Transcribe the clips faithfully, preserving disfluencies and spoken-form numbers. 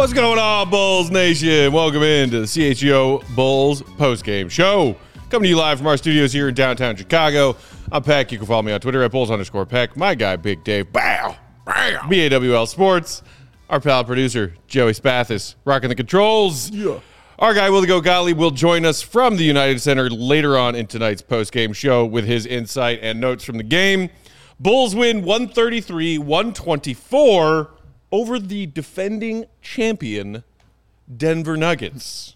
What's going on, Bulls Nation? Welcome into the C H G O Bulls postgame show. Coming to you live from our studios here in downtown Chicago. I'm Peck. You can follow me on Twitter at Bulls underscore Peck. My guy, Big Dave. Bow. Bow. B A W L Sports. Our pal producer, Joey Spathis, rocking the controls. Yeah. Our guy, Willie Go Gottlieb, will join us from the United Center later on in tonight's postgame show with his insight and notes from the game. Bulls win one thirty-three one twenty-four over the defending champion Denver Nuggets.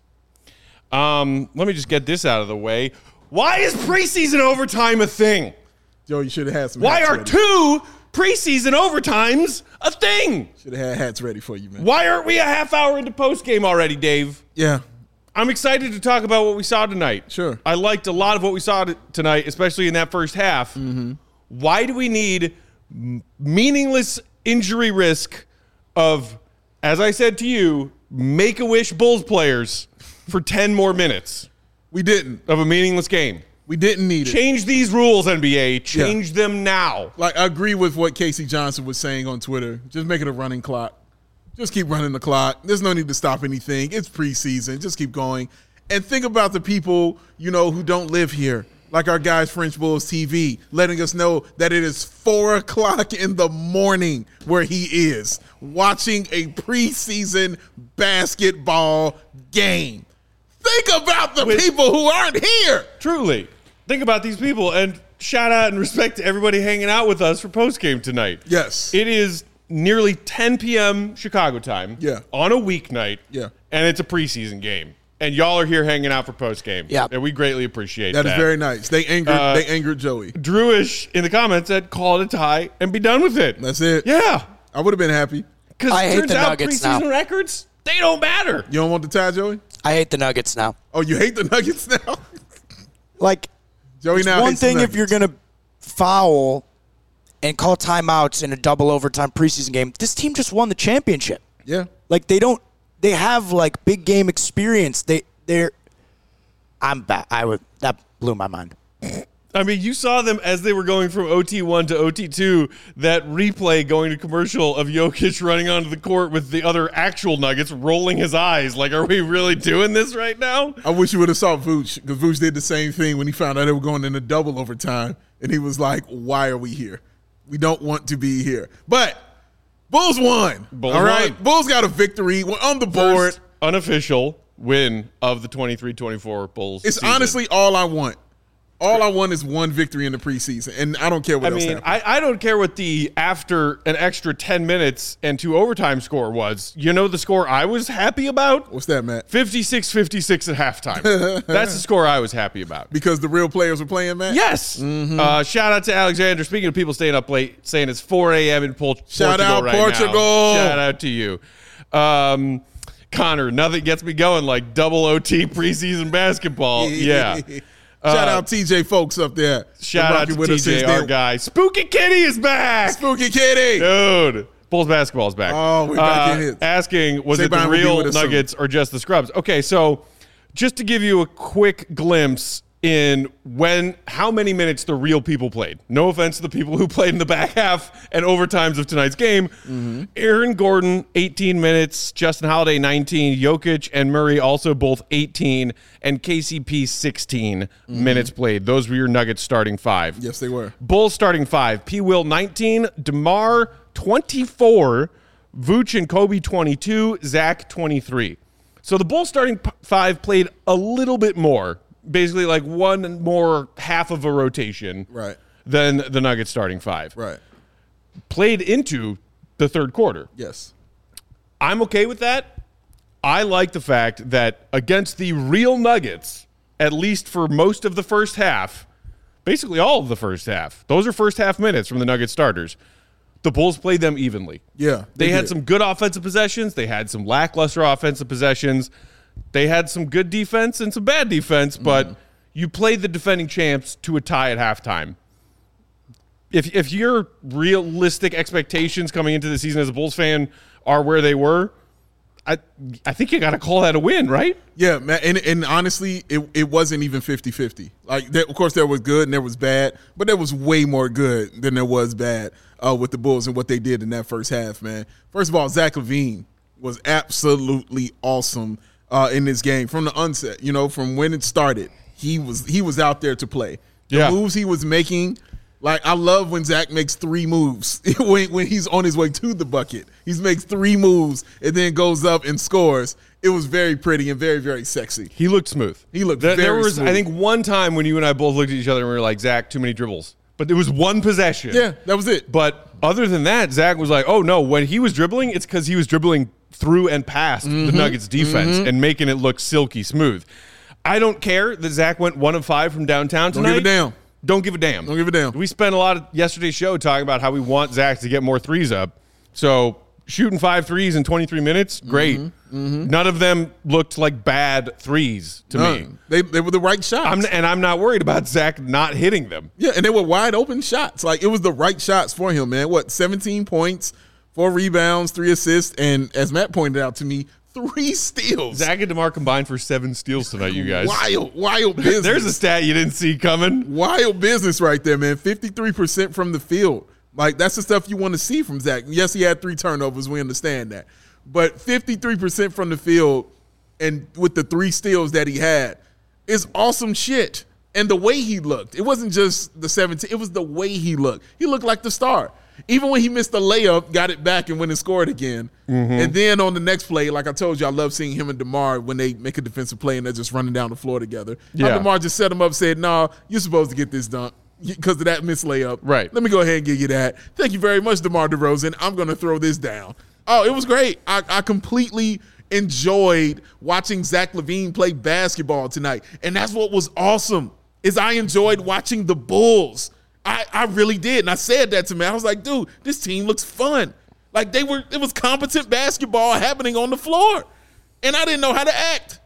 Um, let me just get this out of the way. Why is preseason overtime a thing? Joe, you should have had some Why hats are ready. two preseason overtimes a thing? Should have had hats ready for you, man. Why aren't we a half hour into postgame already, Dave? Yeah. I'm excited to talk about what we saw tonight. Sure. I liked a lot of what we saw t- tonight, especially in that first half. Mm-hmm. Why do we need m- meaningless injury risk of, as I said to you, Make-A-Wish Bulls players for ten more minutes? We didn't. Of a meaningless game. We didn't need it. Change these rules, N B A. Change yeah. them now. Like, I agree with what Casey Johnson was saying on Twitter. Just make it a running clock. Just keep running the clock. There's no need to stop anything. It's preseason. Just keep going. And think about the people, you know, who don't live here. Like our guys, French Bulls T V, letting us know that it is four o'clock in the morning where he is watching a preseason basketball game. Think about the With, people who aren't here. Truly. Think about these people, and shout out and respect to everybody hanging out with us for postgame tonight. Yes. It is nearly ten p.m. Chicago time yeah. on a weeknight, yeah. and it's a preseason game. And y'all are here hanging out for postgame. Yeah. And we greatly appreciate that. That That is very nice. They angered uh, they angered Joey. Drewish in the comments said, call it a tie and be done with it. That's it. Yeah. I would have been happy. Because it hate turns the out Nuggets preseason now. records, they don't matter. You don't want the tie, Joey? I hate the Nuggets now. Oh, you hate the Nuggets now? Like, Joey it's now one hates the thing if Nuggets. you're going to foul and call timeouts in a double overtime preseason game. This team just won the championship. Yeah. Like, they don't – they have, like, big game experience. They, they're – I'm back. I would – that blew my mind. I mean, you saw them as they were going from O T one to O T two, that replay going to commercial of Jokic running onto the court with the other actual Nuggets rolling his eyes. Like, are we really doing this right now? I wish you would have saw Vooch, because Vooch did the same thing when he found out they were going into double overtime, and he was like, why are we here? We don't want to be here. But Bulls won. Bulls all right? won. Bulls got a victory. We're on the board. First unofficial win of the twenty-three twenty-four Bulls It's season. honestly all I want. All I want is one victory in the preseason, and I don't care what I else mean, happens. I, I don't care what the after an extra ten minutes and two overtime score was. You know the score I was happy about? What's that, Matt? fifty-six fifty-six at halftime. That's the score I was happy about. Because the real players were playing, Matt? Yes. Mm-hmm. Uh, shout out to Alexander. Speaking of people staying up late, saying it's four a.m. in Pol- Shout Portugal out right Portugal. now. Shout out to you. Um, Connor, nothing gets me going like double O T preseason basketball. Yeah. Shout Uh, out T J folks up there. Shout out to with T us J, since our then. guy. Spooky Kitty is back. Spooky Kitty. Dude. Bulls basketball is back. Oh, we're back uh, in it. Asking, was it the Saban will be real with us soon. Nuggets or just the scrubs? Okay, so just to give you a quick glimpse in when, how many minutes the real people played. No offense to the people who played in the back half and overtimes of tonight's game. Mm-hmm. Aaron Gordon, eighteen minutes. Justin Holiday, nineteen. Jokic and Murray also both eighteen. And K C P, sixteen mm-hmm. minutes played. Those were your Nuggets starting five. Yes, they were. Bulls starting five. P. Will, nineteen. DeMar, twenty-four. Vooch and Kobe, twenty-two. Zach, twenty-three. So the Bulls starting p- five played a little bit more. Basically like one more half of a rotation right. than the Nuggets starting five. Right. Played into the third quarter. Yes. I'm okay with that. I like the fact that against the real Nuggets, at least for most of the first half, basically all of the first half, those are first half minutes from the Nuggets starters, the Bulls played them evenly. Yeah. They, they had did. some good offensive possessions. They had some lackluster offensive possessions. They had some good defense and some bad defense, but mm. you played the defending champs to a tie at halftime. If if your realistic expectations coming into the season as a Bulls fan are where they were, I I think you got to call that a win, right? Yeah, man. And, and honestly, it, it wasn't even fifty-fifty. Like, there, of course, there was good and there was bad, but there was way more good than there was bad uh, with the Bulls and what they did in that first half, man. First of all, Zach LaVine was absolutely awesome uh, in this game from the onset. You know, from when it started, he was he was out there to play. The yeah. moves he was making, like I love when Zach makes three moves when when he's on his way to the bucket. He makes three moves and then goes up and scores. It was very pretty and very, very sexy. He looked smooth. He looked there, very There was, smooth. I think, one time when you and I both looked at each other and we were like, Zach, too many dribbles. But there was one possession. Yeah, that was it. But other than that, Zach was like, oh, no, when he was dribbling, it's because he was dribbling through and past mm-hmm. the Nuggets defense mm-hmm. and making it look silky smooth. I don't care that Zach went one of five from downtown tonight. Don't give a damn. Don't give a damn. Don't give a damn. We spent a lot of yesterday's show talking about how we want Zach to get more threes up. So shooting five threes in twenty-three minutes, great. Mm-hmm. Mm-hmm. None of them looked like bad threes to None. me. They they were the right shots. I'm, and I'm not worried about Zach not hitting them. Yeah, and they were wide open shots. Like it was the right shots for him, man. What, seventeen points, four rebounds, three assists, and as Matt pointed out to me, three steals. Zach and DeMar combined for seven steals tonight, you guys. Wild, wild business. There's a stat you didn't see coming. Wild business right there, man. fifty-three percent from the field. Like, that's the stuff you want to see from Zach. Yes, he had three turnovers. We understand that. But fifty-three percent from the field and with the three steals that he had is awesome shit. And the way he looked, it wasn't just the seventeen. It was the way he looked. He looked like the star. Even when he missed the layup, got it back and went and scored again. Mm-hmm. And then on the next play, like I told you, I love seeing him and DeMar when they make a defensive play and they're just running down the floor together. Yeah. How DeMar just set him up, said, no, nah, you're supposed to get this dunk because of that missed layup. Right. Let me go ahead and give you that. Thank you very much, DeMar DeRozan. I'm going to throw this down. Oh, it was great. I, I completely enjoyed watching Zach LaVine play basketball tonight. And that's what was awesome, is I enjoyed watching the Bulls. I, I really did. And I said that to me. I was like, dude, this team looks fun. Like they were, it was competent basketball happening on the floor. And I didn't know how to act.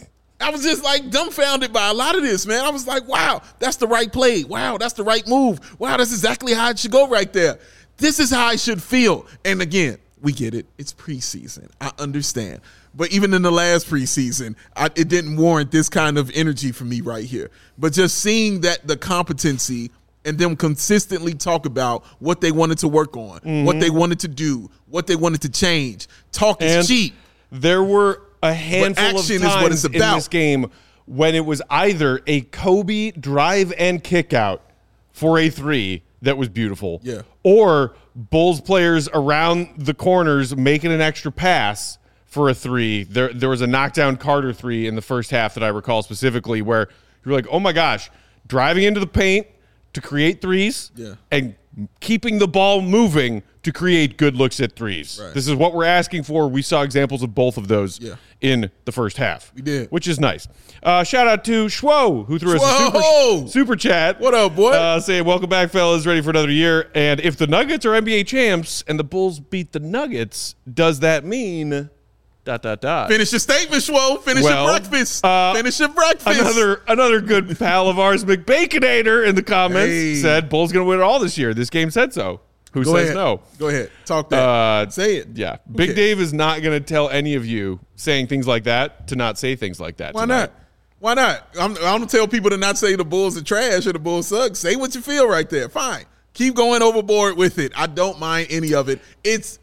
I was just like dumbfounded by a lot of this, man. I was like, wow, that's the right play. Wow, that's the right move. Wow, that's exactly how it should go right there. This is how I should feel. And again, we get it. It's preseason. I understand. But even in the last preseason, I, it didn't warrant this kind of energy for me right here. But just seeing that the competency and them consistently talk about what they wanted to work on, mm-hmm. what they wanted to do, what they wanted to change. Talk is and cheap. There were a handful of times is what it's in about. this game when it was either a Kobe drive and kick out for a three that was beautiful, yeah. or Bulls players around the corners making an extra pass for a three. There, there was a knockdown Carter three in the first half that I recall specifically where you're like, oh my gosh, driving into the paint to create threes yeah. and keeping the ball moving to create good looks at threes. Right. This is what we're asking for. We saw examples of both of those yeah. in the first half. We did. Which is nice. Uh, shout out to Schwo, who threw us Schwo! a super, super chat. What up, boy? Uh, saying, welcome back, fellas. Ready for another year. And if the Nuggets are N B A champs and the Bulls beat the Nuggets, does that mean... Dot, dot, dot. Finish your statement, Schwo. Finish well, your breakfast. Uh, Finish your breakfast. Another another good pal of ours, McBaconator, in the comments hey. said Bulls going to win it all this year. This game said so. Who Go says ahead. no? Go ahead. Talk that. Uh, say it. Yeah. Who Big cares? Dave is not going to tell any of you saying things like that to not say things like that. Why tonight. not? Why not? I'm, I don't tell people to not say the Bulls are trash or the Bulls suck. Say what you feel right there. Fine. Keep going overboard with it. I don't mind any of it. It's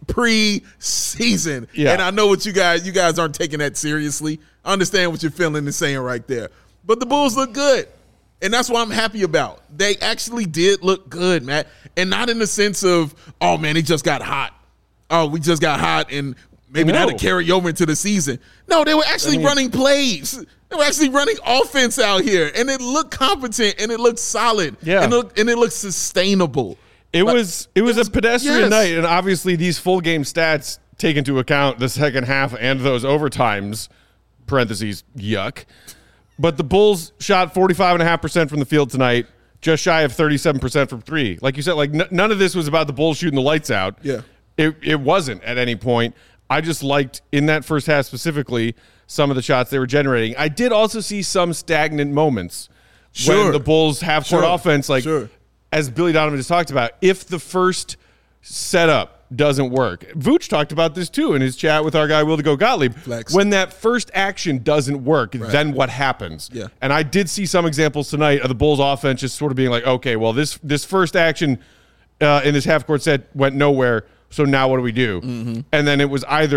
pre-season. Yeah. And I know what you guys, you guys aren't taking that seriously. I understand what you're feeling and saying right there. But the Bulls look good. And that's what I'm happy about. They actually did look good, Matt. And not in the sense of, oh, man, it just got hot. Oh, we just got hot and maybe No. that'll carry over into the season. No, they were actually I mean- running plays. They were actually running offense out here. And it looked competent and it looked solid. Yeah. And it looked, and it looked sustainable. It Like, was it was it was- a pedestrian yes. night, and obviously these full game stats take into account the second half and those overtimes. Parentheses yuck. But the Bulls shot forty-five and a half percent from the field tonight, just shy of thirty-seven percent from three. Like you said, like n- none of this was about the Bulls shooting the lights out. Yeah. It it wasn't at any point. I just liked in that first half specifically some of the shots they were generating. I did also see some stagnant moments Sure. when the Bulls half court Sure. offense, like Sure. as Billy Donovan just talked about, if the first setup doesn't work. Vooch talked about this too in his chat with our guy Will to Go Gottlieb. Flex. When that first action doesn't work, then what happens? Yeah. And I did see some examples tonight of the Bulls offense just sort of being like, okay, well, this this first action uh, in this half court set went nowhere, so now what do we do? Mm-hmm. And then it was either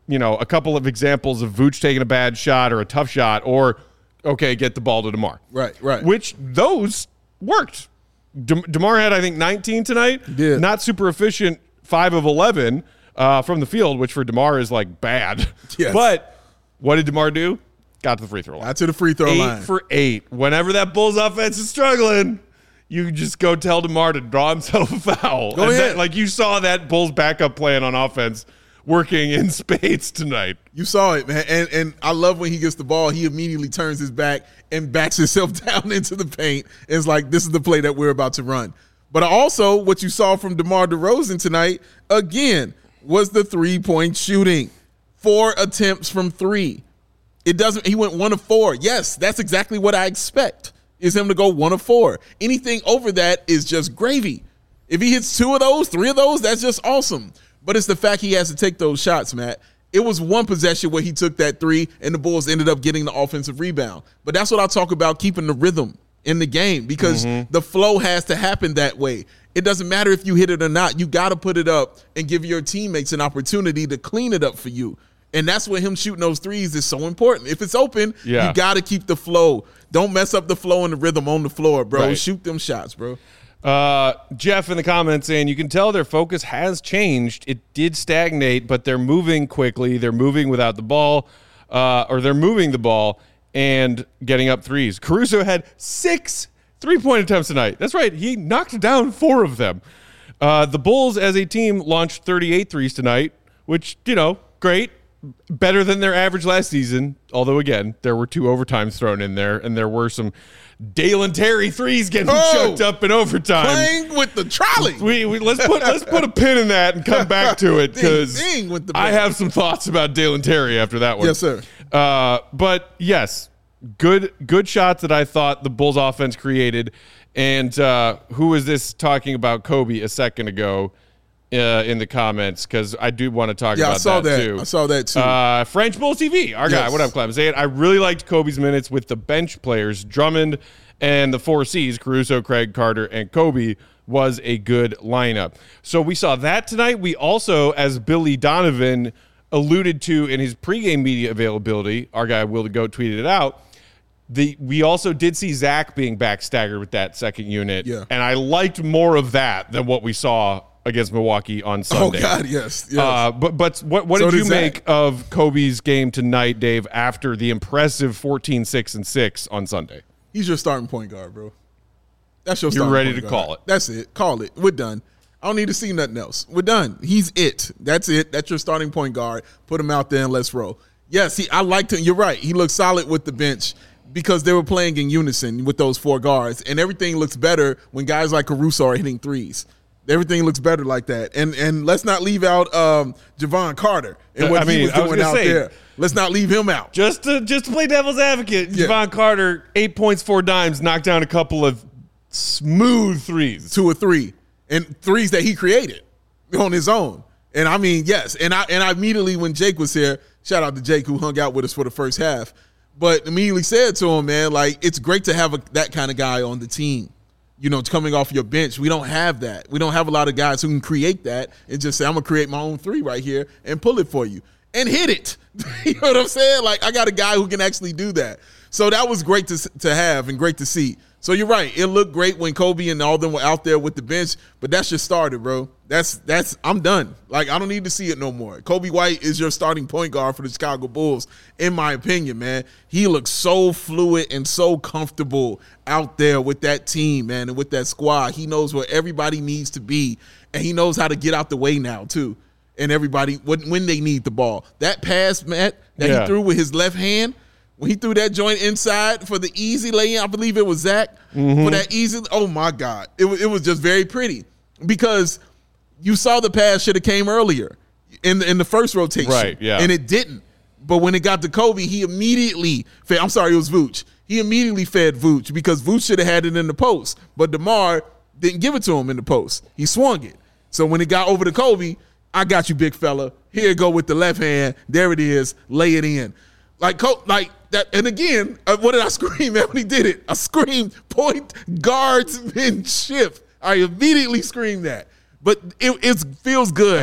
you know, a couple of examples of Vooch taking a bad shot or a tough shot, or okay, get the ball to DeMar. Right, right. Which those worked. De- DeMar had, I think, nineteen tonight. Yeah. Not super efficient, five of eleven uh, from the field, which for DeMar is like bad. Yes. But what did DeMar do? Got to the free throw line. Got to the free throw eight line. Eight for eight. Whenever that Bulls offense is struggling, you just go tell DeMar to draw himself a foul. Go and ahead. That, like you saw that Bulls backup plan on offense working in spades tonight. You saw it, man. And and I love when he gets the ball, he immediately turns his back and backs himself down into the paint. And it's like, this is the play that we're about to run. But also, what you saw from DeMar DeRozan tonight, again, was the three-point shooting. Four attempts from three. It doesn't, he went one of four. Yes, that's exactly what I expect, is him to go one of four. Anything over that is just gravy. If he hits two of those, three of those, that's just awesome. But it's the fact he has to take those shots, Matt. It was one possession where he took that three and the Bulls ended up getting the offensive rebound. But that's what I talk about, keeping the rhythm in the game, because mm-hmm. the flow has to happen that way. It doesn't matter if you hit it or not. You got to put it up and give your teammates an opportunity to clean it up for you. And that's where him shooting those threes is so important. If it's open, yeah. you got to keep the flow. Don't mess up the flow and the rhythm on the floor, bro. Right. Shoot them shots, bro. Uh, Jeff in the comments saying, you can tell their focus has changed. It did stagnate, but they're moving quickly. They're moving without the ball, uh, or they're moving the ball and getting up threes. Caruso had six three-point attempts tonight. That's right. He knocked down four of them. Uh, the Bulls as a team launched thirty-eight threes tonight, which, you know, great. Better than their average last season, although, again, there were two overtimes thrown in there, and there were some Dalen Terry threes getting oh, choked up in overtime. Playing with the trolley. We, we let's put let's put a pin in that and come back to it, because I have some thoughts about Dalen Terry after that one. Yes, sir. Uh, but yes, good good shots that I thought the Bulls offense created. And uh, who was this talking about Kobe a second ago? Uh, in the comments, because I do want to talk yeah, about I saw that, that too. I saw that too. Uh, French Bulls T V, our yes. guy. What up, Clem? Saying I really liked Kobe's minutes with the bench players. Drummond and the four C's, Caruso, Craig, Carter, and Kobe, was a good lineup. So we saw that tonight. We also, as Billy Donovan alluded to in his pregame media availability, our guy Will the Goat tweeted it out, The, we also did see Zach being back staggered with that second unit, yeah. and I liked more of that than what we saw against Milwaukee on Sunday. Oh, God, yes. yes. Uh, but but what, what so did you did make of Kobe's game tonight, Dave, after the impressive fourteen, six, and six on Sunday? He's your starting point guard, bro. That's your You're starting ready point to guard. call it. That's it. Call it. We're done. I don't need to see nothing else. We're done. He's it. That's it. That's your starting point guard. Put him out there and let's roll. Yes, he, I liked him. You're right. He looked solid with the bench, because they were playing in unison with those four guards, and everything looks better when guys like Caruso are hitting threes. Everything looks better like that. And and let's not leave out um, Javon Carter and what I mean, he was doing was out say, there. Let's not leave him out. Just to just to play devil's advocate, yeah. Javon Carter, eight points, four dimes, knocked down a couple of smooth threes. Two or three. And threes that he created on his own. And I mean, yes. And I and I immediately, when Jake was here, shout out to Jake who hung out with us for the first half, but immediately said to him, man, like, it's great to have a, that kind of guy on the team. You know, coming off your bench. We don't have that. We don't have a lot of guys who can create that and just say, I'm going to create my own three right here and pull it for you and hit it. You know what I'm saying? Like, I got a guy who can actually do that. So that was great to to have and great to see. So you're right. It looked great when Kobe and all them were out there with the bench, but that's just started, bro. That's that's I'm done. Like, I don't need to see it no more. Kobe White is your starting point guard for the Chicago Bulls, in my opinion, man. He looks so fluid and so comfortable out there with that team, man, and with that squad. He knows where everybody needs to be, and he knows how to get out the way now, too. And everybody, when, when they need the ball. That pass, Matt, that yeah. he threw with his left hand, when he threw that joint inside for the easy lay-in, I believe it was Zach, mm-hmm. for that easy, oh, my God. It was, it was just very pretty, because you saw the pass should have came earlier in the, in the first rotation. Right, yeah. And it didn't. But when it got to Kobe, he immediately fed, I'm sorry, it was Vooch. He immediately fed Vooch, because Vooch should have had it in the post. But DeMar didn't give it to him in the post. He swung it. So when it got over to Kobe, I got you, big fella. Here you go with the left hand. There it is. Lay it in. Like, like that. And again, uh, what did I scream at when he did it? I screamed point guardsmanship. I immediately screamed that. But it, it feels good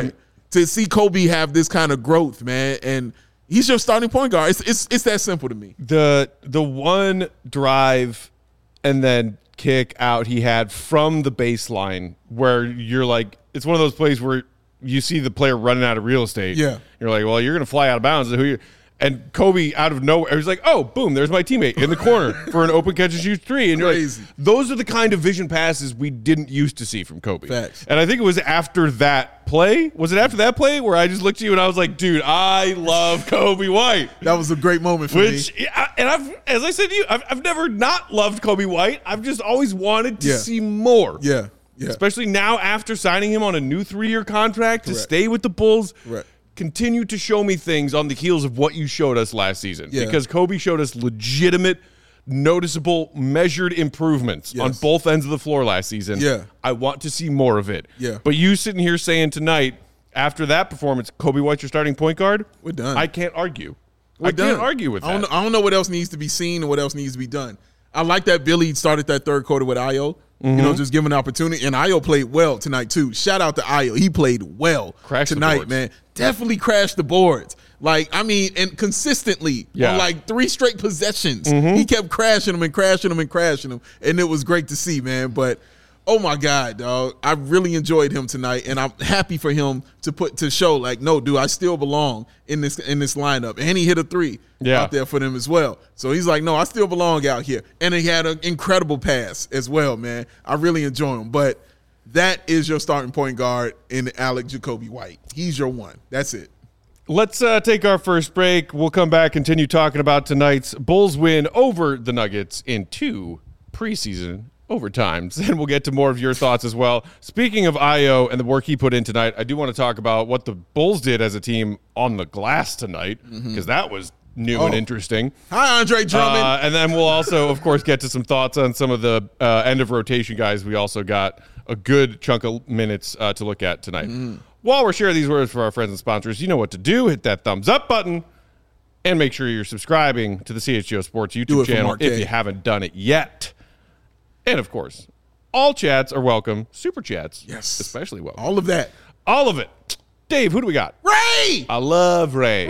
to see Kobe have this kind of growth, man. And he's your starting point guard. It's it's it's that simple to me. The the one drive and then kick out he had from the baseline where you're like, it's one of those plays where you see the player running out of real estate. Yeah. You're like, well, you're going to fly out of bounds. Who you? And Kobe out of nowhere, he's like, oh, boom, there's my teammate in the corner for an open catch and shoot three. And you're Crazy. like, those are the kind of vision passes we didn't used to see from Kobe. Facts. And I think it was after that play. Was it after that play where I just looked at you and I was like, dude, I love Kobe White. That was a great moment for Which, me. and I've, as I said to you, I've, I've never not loved Kobe White. I've just always wanted to Yeah. see more. Yeah. Yeah. Especially now after signing him on a new three-year contract to Correct. stay with the Bulls. Correct. Continue to show me things on the heels of what you showed us last season. Yeah. Because Kobe showed us legitimate, noticeable, measured improvements Yes. on both ends of the floor last season. Yeah. I want to see more of it. Yeah. But you sitting here saying tonight, after that performance, Kobe White's your starting point guard? We're done. I can't argue. We're I can't done. argue with I don't, that. know, I don't know what else needs to be seen and what else needs to be done. I like that Billy started that third quarter with Ayo. You Mm-hmm. know, just giving an opportunity. And Ayo played well tonight, too. Shout out to Ayo. He played well Crashed the tonight, boards. man. Definitely crashed the boards. Like, I mean, and consistently Yeah. on like three straight possessions. Mm-hmm. He kept crashing them and crashing them and crashing them. And it was great to see, man. But oh my God, dog. I really enjoyed him tonight. And I'm happy for him to put to show, like, no, dude, I still belong in this in this lineup. And he hit a three Yeah. out there for them as well. So he's like, no, I still belong out here. And he had an incredible pass as well, man. I really enjoy him. But that is your starting point guard in Alec Jacoby White. He's your one. That's it. Let's uh, take our first break. We'll come back, continue talking about tonight's Bulls win over the Nuggets in two preseason overtimes, and we'll get to more of your thoughts as well. Speaking of Ayo and the work he put in tonight, I do want to talk about what the Bulls did as a team on the glass tonight, because that was new and Oh. interesting. Hi, Andre Drummond. Uh, and then we'll also, of course, get to some thoughts on some of the uh, end of rotation guys. We also got a good chunk of minutes uh, to look at tonight. While we're sharing these words for our friends and sponsors, you know what to do. Hit that thumbs up button and make sure you're subscribing to the C H G O Sports Do YouTube it for channel Mark if K. you haven't done it yet. And, of course, all chats are welcome. Super chats, Yes. especially welcome. All of that. All of it. Dave, who do we got? Ray! I love Ray.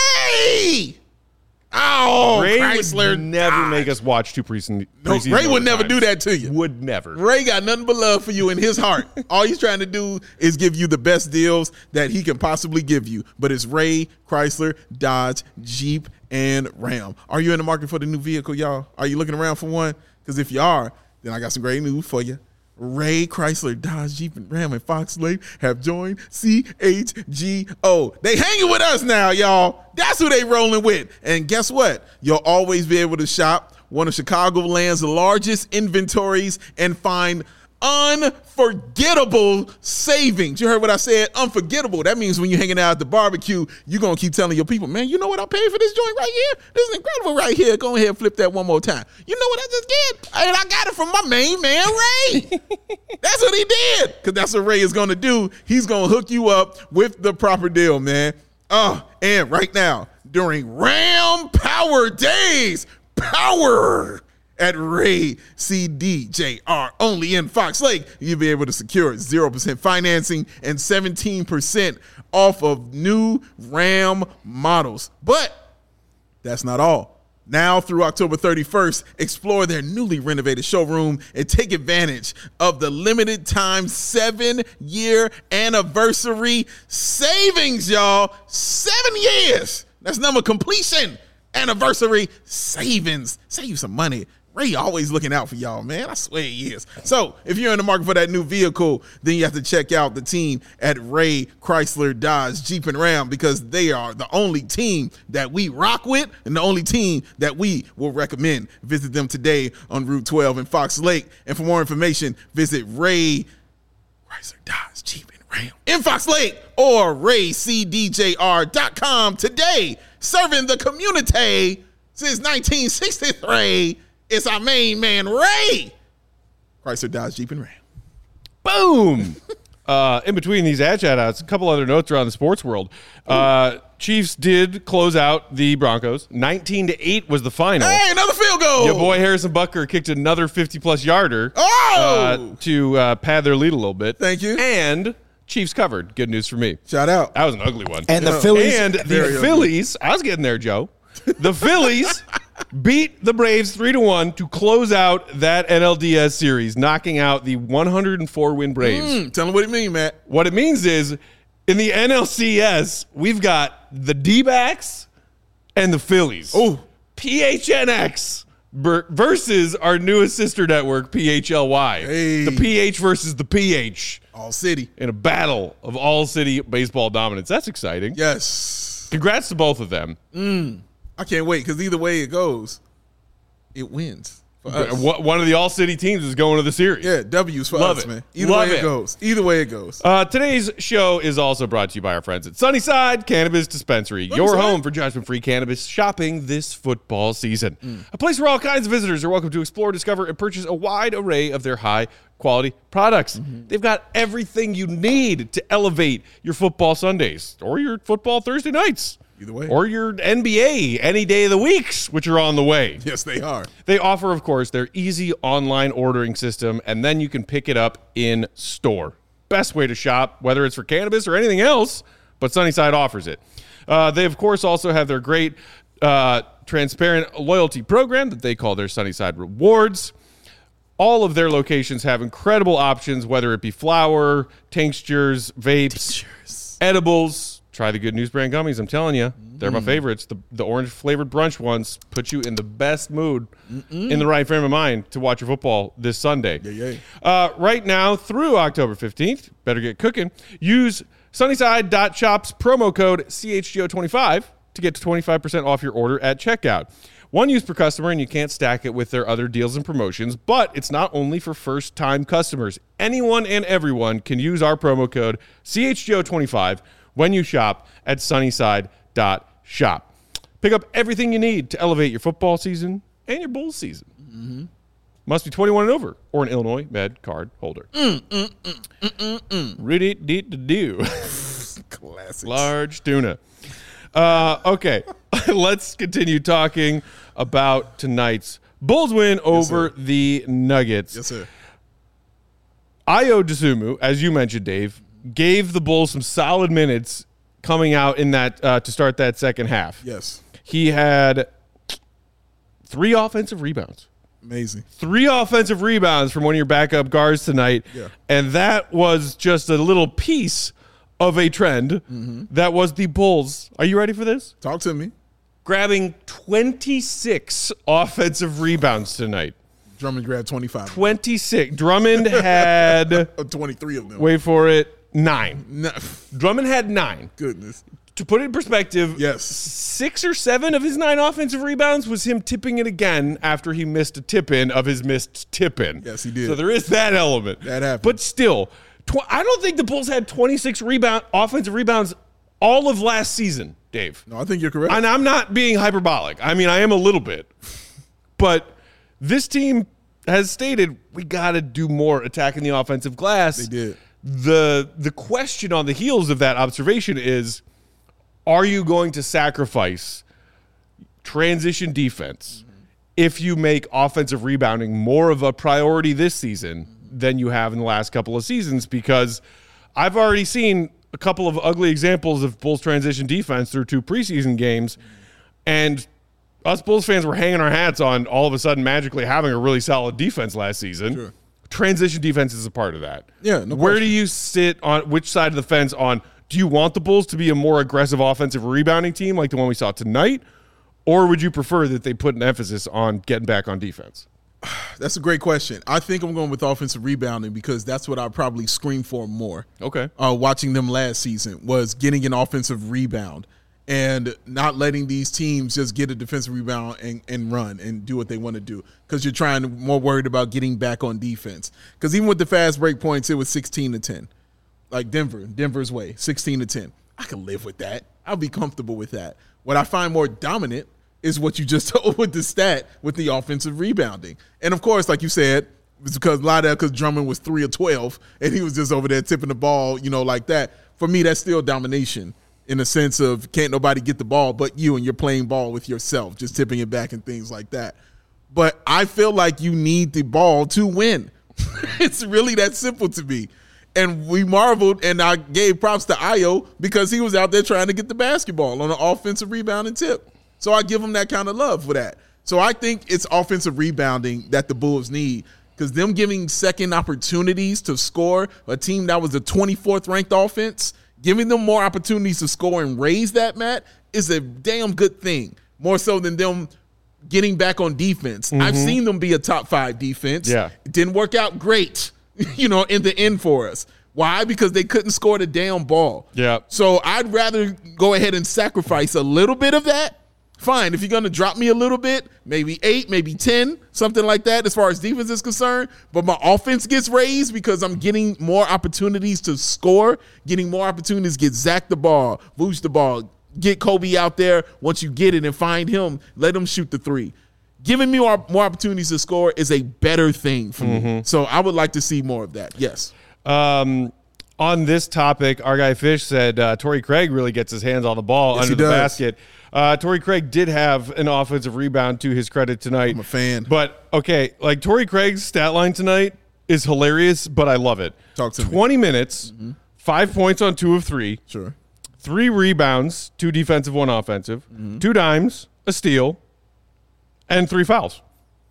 Ray! Oh, Ray Chrysler would never died. make us watch two preseason. No, preseason Ray would never overtimes. do that to you. Would never. Ray got nothing but love for you in his heart. All he's trying to do is give you the best deals that he can possibly give you. But it's Ray, Chrysler, Dodge, Jeep, and Ram. Are you in the market for the new vehicle, y'all? Are you looking around for one? Because if you are, then I got some great news for you. Ray, Chrysler, Dodge, Jeep, and Ram, and Fox Lake have joined C H G O. They hanging with us now, y'all. That's who they rolling with. And guess what? You'll always be able to shop one of Chicagoland's largest inventories and find unforgettable savings. You heard what I said? Unforgettable. That means when you're hanging out at the barbecue, you're going to keep telling your people, man, you know what I paid for this joint right here? This is incredible right here. Go ahead and flip that one more time. You know what I just did? And I got it from my main man, Ray. That's what he did. Because that's what Ray is going to do. He's going to hook you up with the proper deal, man. Oh, and right now, during Ram Power Days, power at Ray C D J R only in Fox Lake, you'll be able to secure zero percent financing and seventeen percent off of new Ram models. But that's not all. Now through October thirty-first, explore their newly renovated showroom and take advantage of the limited time seven-year anniversary savings, y'all. Seven years. That's number completion. Anniversary savings. Save you some money. Ray always looking out for y'all, man. I swear he is. So if you're in the market for that new vehicle, then you have to check out the team at Ray, Chrysler, Dodge, Jeep, and Ram, because they are the only team that we rock with and the only team that we will recommend. Visit them today on Route twelve in Fox Lake. And for more information, visit Ray, Chrysler, Dodge, Jeep, and Ram in Fox Lake or ray c d j r dot com today. Serving the community since nineteen sixty-three. It's our main man, Ray. Chrysler, Dodge, Jeep, and Ram. Boom. uh, in between these ad shout outs, a couple other notes around the sports world. Uh, Chiefs did close out the Broncos. nineteen to eight was the final. Hey, another field goal. Your boy Harrison Butker kicked another fifty plus yarder Oh! uh, to uh, pad their lead a little bit. Thank you. And Chiefs covered. Good news for me. Shout out. That was an ugly one. And the Yeah. Phillies. And the Very ugly. Phillies, I was getting there, Joe. The Phillies beat the Braves three to one to close out that N L D S series, knocking out the one hundred four win Braves. Mm, tell them what it mean, Matt. What it means is in the N L C S, we've got the D-backs and the Phillies. Oh. P H N X ber- versus our newest sister network, P H L Y. Hey. The P H versus the P H All city. in a battle of all-city baseball dominance. That's exciting. Yes. Congrats to both of them. I can't wait because either way it goes, it wins for us. One one of the all-city teams is going to the series. Yeah, W's for Love us, it. man. Either Love way it. it. goes. Either way it goes. Uh, today's show is also brought to you by our friends at Sunnyside Cannabis Dispensary, your Sunnyside? home for judgment-free cannabis shopping this football season. A place where all kinds of visitors are welcome to explore, discover, and purchase a wide array of their high-quality products. They've got everything you need to elevate your football Sundays or your football Thursday nights. Either way. Or your N B A any day of the weeks, which are on the way. Yes, they are. They offer, of course, their easy online ordering system, and then you can pick it up in store. Best way to shop, whether it's for cannabis or anything else, but Sunnyside offers it. Uh, they, of course, also have their great uh, transparent loyalty program that they call their Sunnyside Rewards. All of their locations have incredible options, whether it be flour, tinctures, vapes, edibles. Try the Good News brand gummies. I'm telling you, they're my favorites. The the orange flavored brunch ones put you in the best mood, in the right frame of mind to watch your football this Sunday. Yeah, yeah. Uh, right now through October fifteenth, better get cooking. Use Sunnyside.shop's promo code C H G O twenty-five to get to twenty-five percent off your order at checkout. One use per customer, and you can't stack it with their other deals and promotions, but it's not only for first-time customers. Anyone and everyone can use our promo code C H G O twenty-five when you shop at Sunnyside.shop. Pick up everything you need to elevate your football season and your Bulls season. Mm-hmm. Must be twenty-one and over or an Illinois Med card holder. Mm, mm, mm, mm, mm, mm. Rudy dee do. Classic. Large tuna. Uh, okay, let's continue talking about tonight's Bulls win over sir. the Nuggets. Yes, sir. Ayo Dosunmu, as you mentioned, Dave, gave the Bulls some solid minutes coming out in that uh, to start that second half. Yes. He had three offensive rebounds. Amazing. Three offensive rebounds from one of your backup guards tonight. Yeah. And that was just a little piece of a trend Mm-hmm. that was the Bulls. Are you ready for this? Talk to me. Grabbing twenty-six offensive rebounds tonight. Drummond grabbed twenty-five. twenty-six. Drummond had, Uh, twenty-three of them. wait for it, nine. No. Drummond had nine. Goodness. To put it in perspective, Yes. six or seven of his nine offensive rebounds was him tipping it again after he missed a tip-in of his missed tip-in. Yes, he did. So there is that element. That happened. But still, tw- I don't think the Bulls had twenty-six rebound offensive rebounds all of last season, Dave. No, I think you're correct. And I'm not being hyperbolic. I mean, I am a little bit. But this team has stated we got to do more attacking the offensive glass. They did. The the question on the heels of that observation is, are you going to sacrifice transition defense mm-hmm. if you make offensive rebounding more of a priority this season mm-hmm. than you have in the last couple of seasons? Because I've already seen a couple of ugly examples of Bulls transition defense through two preseason games, mm-hmm. and us Bulls fans were hanging our hats on all of a sudden magically having a really solid defense last season. Sure. Transition defense is a part of that. Yeah, no Where question. do you sit on which side of the fence on, do you want the Bulls to be a more aggressive offensive rebounding team like the one we saw tonight, or would you prefer that they put an emphasis on getting back on defense? That's a great question. I think I'm going with offensive rebounding because that's what I probably screamed for more. Okay. Uh, watching them last season was getting an offensive rebound and not letting these teams just get a defensive rebound and, and run and do what they want to do because you're trying to more worried about getting back on defense. Because even with the fast break points, it was sixteen to ten. Like Denver, Denver's way, sixteen to ten. I can live with that. I'll be comfortable with that. What I find more dominant is what you just told with the stat with the offensive rebounding. And, of course, like you said, it's because a lot of that because Drummond was three of twelve, and he was just over there tipping the ball, you know, like that. For me, that's still domination in a sense of can't nobody get the ball but you, and you're playing ball with yourself, just tipping it back and things like that. But I feel like you need the ball to win. It's really that simple to me. And we marveled, and I gave props to Ayo because he was out there trying to get the basketball on an offensive rebounding tip. So I give him that kind of love for that. So I think it's offensive rebounding that the Bulls need, because them giving second opportunities to score, a team that was the twenty-fourth ranked offense, giving them more opportunities to score and raise that, Matt, is a damn good thing, more so than them getting back on defense. Mm-hmm. I've seen them be a top five defense. Yeah. It didn't work out great, you know, in the end for us. Why? Because they couldn't score the damn ball. Yeah. So I'd rather go ahead and sacrifice a little bit of that. Fine, if you're going to drop me a little bit, maybe eight, maybe ten, something like that as far as defense is concerned, but my offense gets raised because I'm getting more opportunities to score, getting more opportunities to get Zach the ball, Vooch the ball, get Kobe out there once you get it and find him, let him shoot the three. Giving me more, more opportunities to score is a better thing for mm-hmm. me. So I would like to see more of that, yes. Um, on this topic, our guy Fish said uh, Torrey Craig really gets his hands on the ball yes, under the does. basket. Uh, Torrey Craig did have an offensive rebound to his credit tonight. I'm a fan. But, okay, like Torrey Craig's stat line tonight is hilarious, but I love it. Talk to twenty me. minutes, mm-hmm. five points on two of three. Sure. Three rebounds, two defensive, one offensive, mm-hmm. two dimes, a steal, and three fouls.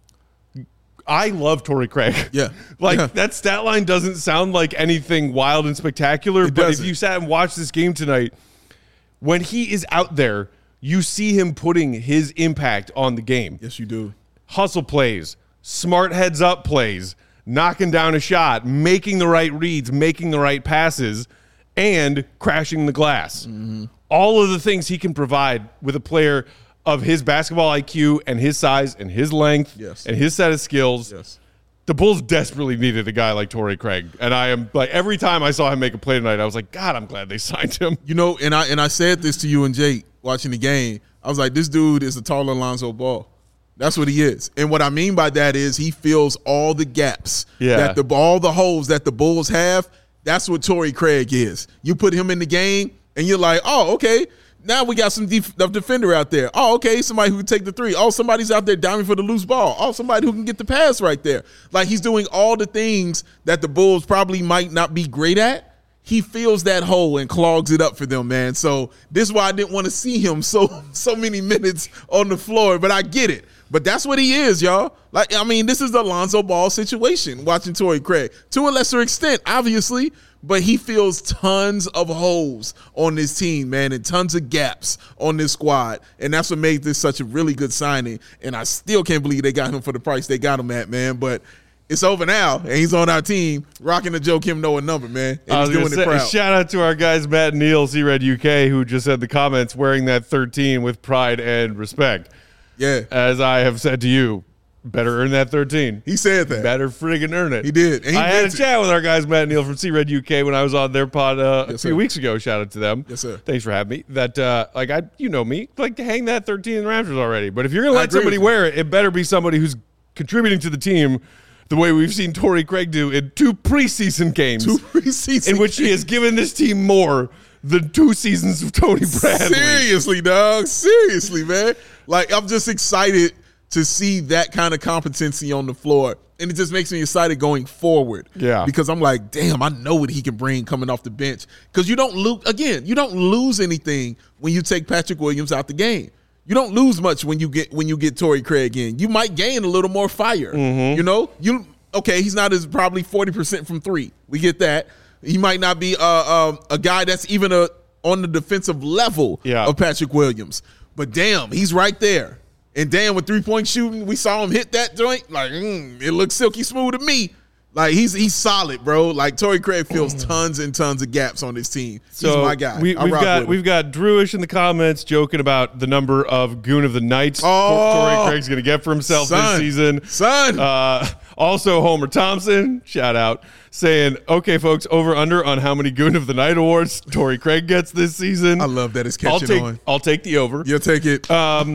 I love Torrey Craig. Yeah. like, yeah. that stat line doesn't sound like anything wild and spectacular, it but doesn't. if you sat and watched this game tonight, when he is out there, you see him putting his impact on the game. Yes, you do. Hustle plays, smart heads up plays, knocking down a shot, making the right reads, making the right passes, and crashing the glass. Mm-hmm. All of the things he can provide with a player of his basketball I Q and his size and his length yes. and his set of skills. Yes. The Bulls desperately needed a guy like Torrey Craig. And I am like, every time I saw him make a play tonight, I was like, God, I'm glad they signed him. You know, and I and I said this to you and Jake watching the game. I was like, this dude is a taller Lonzo Ball. That's what he is. And what I mean by that is he fills all the gaps yeah. that the all the holes that the Bulls have. That's what Torrey Craig is. You put him in the game and you're like, oh, okay. Now we got some def- defender out there. Oh, okay, somebody who can take the three. Oh, somebody's out there diving for the loose ball. Oh, somebody who can get the pass right there. Like, he's doing all the things that the Bulls probably might not be great at. He fills that hole and clogs it up for them, man. So this is why I didn't want to see him so so many minutes on the floor, but I get it. But that's what he is, y'all. Like, I mean, this is the Lonzo Ball situation, watching Torrey Craig. To a lesser extent, obviously, but he fills tons of holes on this team, man, and tons of gaps on this squad. And that's what made this such a really good signing. And I still can't believe they got him for the price they got him at, man. But it's over now, and he's on our team, rocking the Joe Kim Noah number, man. And he's doing say, it proud. Shout out to our guys, Matt and Neil, C-Red U K, who just said the comments wearing that thirteen with pride and respect. Yeah. As I have said to you, better earn that thirteen. He said that. Better friggin' earn it. He did. And he I had a it. chat with our guys, Matt and Neil from C-Red U K, when I was on their pod uh, yes, a few sir. weeks ago. Shout out to them. Yes, sir. Thanks for having me. That, uh, like, I, you know me, like to hang that thirteen in the Raptors already. But if you're going to let somebody wear it, it better be somebody who's contributing to the team the way we've seen Torrey Craig do in two preseason games. Two preseason in which he has given this team more than two seasons of Tony Bradley. Seriously, dog. Seriously, man. Like, I'm just excited to see that kind of competency on the floor. And it just makes me excited going forward. Yeah. Because I'm like, damn, I know what he can bring coming off the bench. Because you don't lose, again, you don't lose anything when you take Patrick Williams out the game. You don't lose much when you get when you get Torrey Craig in. You might gain a little more fire. Mm-hmm. You know? You okay, he's not as probably forty percent from three. We get that. He might not be uh, uh, a guy that's even a, on the defensive level yeah. of Patrick Williams. But damn, he's right there. And damn, with three-point shooting, we saw him hit that joint. Like, mm, it looks silky smooth to me. Like, he's he's solid, bro. Like, Torrey Craig fills tons and tons of gaps on this team. So he's my guy. We, we've got we've got Drewish in the comments joking about the number of Goon of the Nights oh, Torrey Craig's going to get for himself son, this season. Son. Uh, also, Homer Thompson, shout out, saying, okay, folks, over under on how many Goon of the Night awards Torrey Craig gets this season. I love that it's catching I'll take, on. I'll take the over. You'll take it. Um,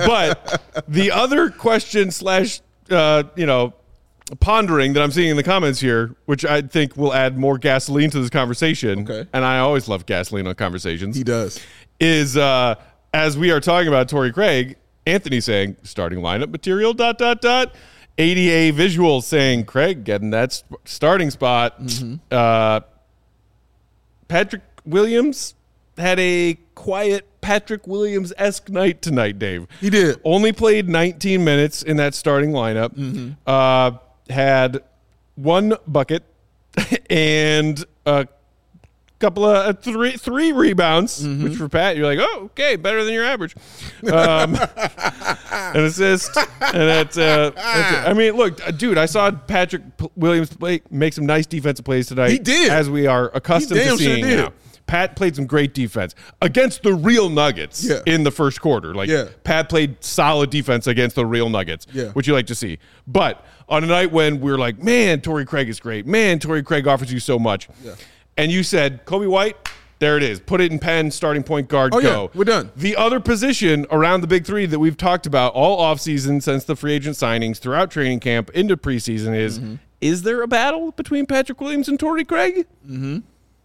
but the other question slash, uh, you know, pondering that I'm seeing in the comments here, which I think will add more gasoline to this conversation, okay. and I always love gasoline on conversations. He does. Is uh, as we are talking about Torrey Craig, Anthony saying starting lineup material dot dot dot. A D A Visuals saying Craig getting that sp- starting spot. Mm-hmm. Uh, Patrick Williams had a quiet Patrick Williams-esque night tonight, Dave. He did. Only played nineteen minutes in that starting lineup. Mm-hmm. Uh, had one bucket and a couple of uh, three three rebounds, mm-hmm. which for Pat, you're like, oh, okay, better than your average. Um, an assist. And that's, uh, that's it. I mean, look, dude, I saw Patrick Williams play, make some nice defensive plays tonight. He did. As we are accustomed to seeing sure now. Pat played some great defense against the real Nuggets yeah. in the first quarter. Like, yeah. Pat played solid defense against the real Nuggets, yeah. which you like to see. But on a night when we were like, man, Torrey Craig is great. Man, Torrey Craig offers you so much. Yeah. And you said, Kobe White, there it is. Put it in pen, starting point guard, oh, go. Yeah, we're done. The other position around the big three that we've talked about all offseason since the free agent signings throughout training camp into preseason is, mm-hmm. is there a battle between Patrick Williams and Torrey Craig? Mm-hmm.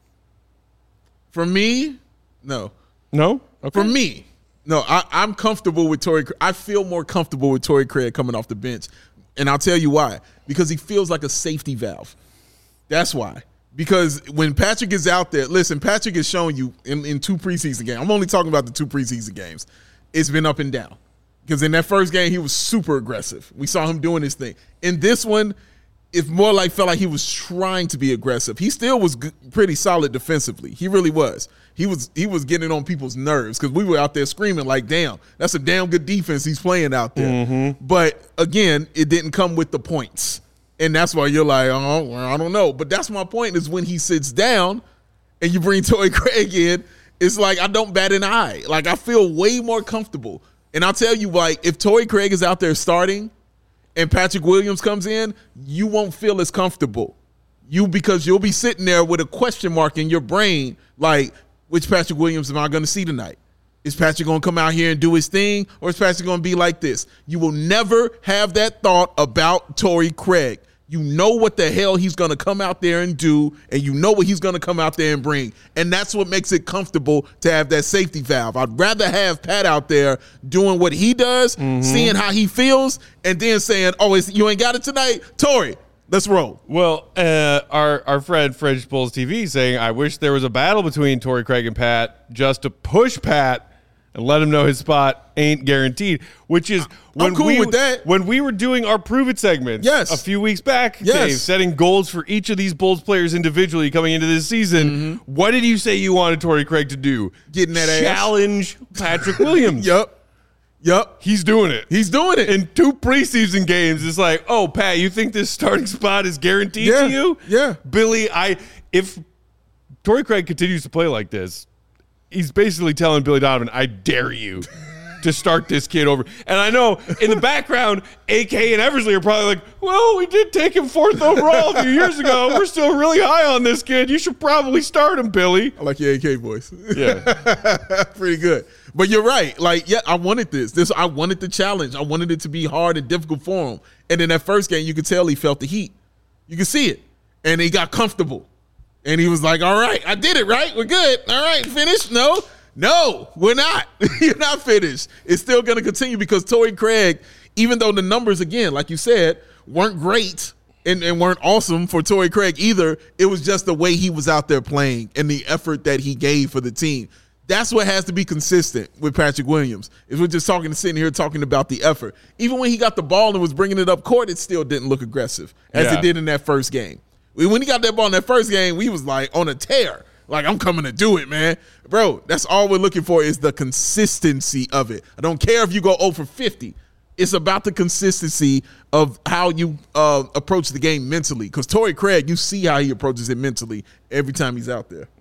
For me, no. No? Okay. For me, no. I, I'm comfortable with Torrey. I feel more comfortable with Torrey Craig coming off the bench. And I'll tell you why. Because he feels like a safety valve. That's why. Because when Patrick is out there, listen, Patrick has shown you in, in two preseason games. I'm only talking about the two preseason games. It's been up and down. Because in that first game, he was super aggressive. We saw him doing his thing. In this one, it more like felt like he was trying to be aggressive. He still was g- pretty solid defensively. He really was. He was he was getting on people's nerves because we were out there screaming like, damn, that's a damn good defense he's playing out there. Mm-hmm. But, again, it didn't come with the points. And that's why you're like, oh, well, I don't know. But that's my point is when he sits down and you bring Torrey Craig in, it's like I don't bat an eye. Like I feel way more comfortable. And I'll tell you, like, if Torrey Craig is out there starting and Patrick Williams comes in, you won't feel as comfortable. You because you'll be sitting there with a question mark in your brain, like, which Patrick Williams am I going to see tonight? Is Patrick going to come out here and do his thing, or is Patrick going to be like this? You will never have that thought about Torrey Craig. You know what the hell he's going to come out there and do, and you know what he's going to come out there and bring. And that's what makes it comfortable to have that safety valve. I'd rather have Pat out there doing what he does, mm-hmm. seeing how he feels, and then saying, oh, it's, you ain't got it tonight? Torrey, let's roll. Well, uh, our, our friend French Bulls T V saying, I wish there was a battle between Torrey Craig and Pat just to push Pat and let him know his spot ain't guaranteed, which is when I'm cool we with that. when we were doing our Prove It segments yes. a few weeks back, yes. Dave, setting goals for each of these Bulls players individually coming into this season. Mm-hmm. What did you say you wanted Torrey Craig to do? Getting that Challenge ass. Patrick Williams. Yep. Yep. He's doing it. He's doing it. In two preseason games, it's like, oh, Pat, you think this starting spot is guaranteed yeah. to you? Yeah. Billy, I if Torrey Craig continues to play like this, he's basically telling Billy Donovan, I dare you to start this kid over. And I know in the background, A K and Eversley are probably like, well, we did take him fourth overall a few years ago. We're still really high on this kid. You should probably start him, Billy. I like your A K voice. Yeah. Pretty good. But you're right. Like, yeah, I wanted this. This I wanted the challenge. I wanted it to be hard and difficult for him. And in that first game, you could tell he felt the heat. You could see it. And he got comfortable. And he was like, all right, I did it, right? We're good. All right, finished? No, no, we're not. You're not finished. It's still going to continue because Torrey Craig, even though the numbers, again, like you said, weren't great and, and weren't awesome for Torrey Craig either, it was just the way he was out there playing and the effort that he gave for the team. That's what has to be consistent with Patrick Williams. If we're just talking, sitting here talking about the effort. Even when he got the ball and was bringing it up court, it still didn't look aggressive as yeah. it did in that first game. When he got that ball in that first game, we was like on a tear. Like, I'm coming to do it, man. Bro, that's all we're looking for is the consistency of it. I don't care if you go oh for fifty. It's about the consistency of how you uh, approach the game mentally. Because Torrey Craig, you see how he approaches it mentally every time he's out there.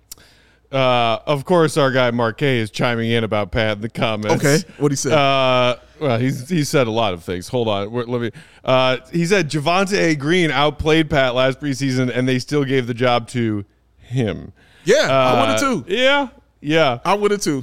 Uh, of course, our guy Marquet is chiming in about Pat in the comments. Okay, what'd he say? Uh, well, he's he said a lot of things. Hold on, Wait, let me. Uh, he said Javonte Green outplayed Pat last preseason, and they still gave the job to him. Yeah, uh, I would have too. Yeah, yeah, I would have too.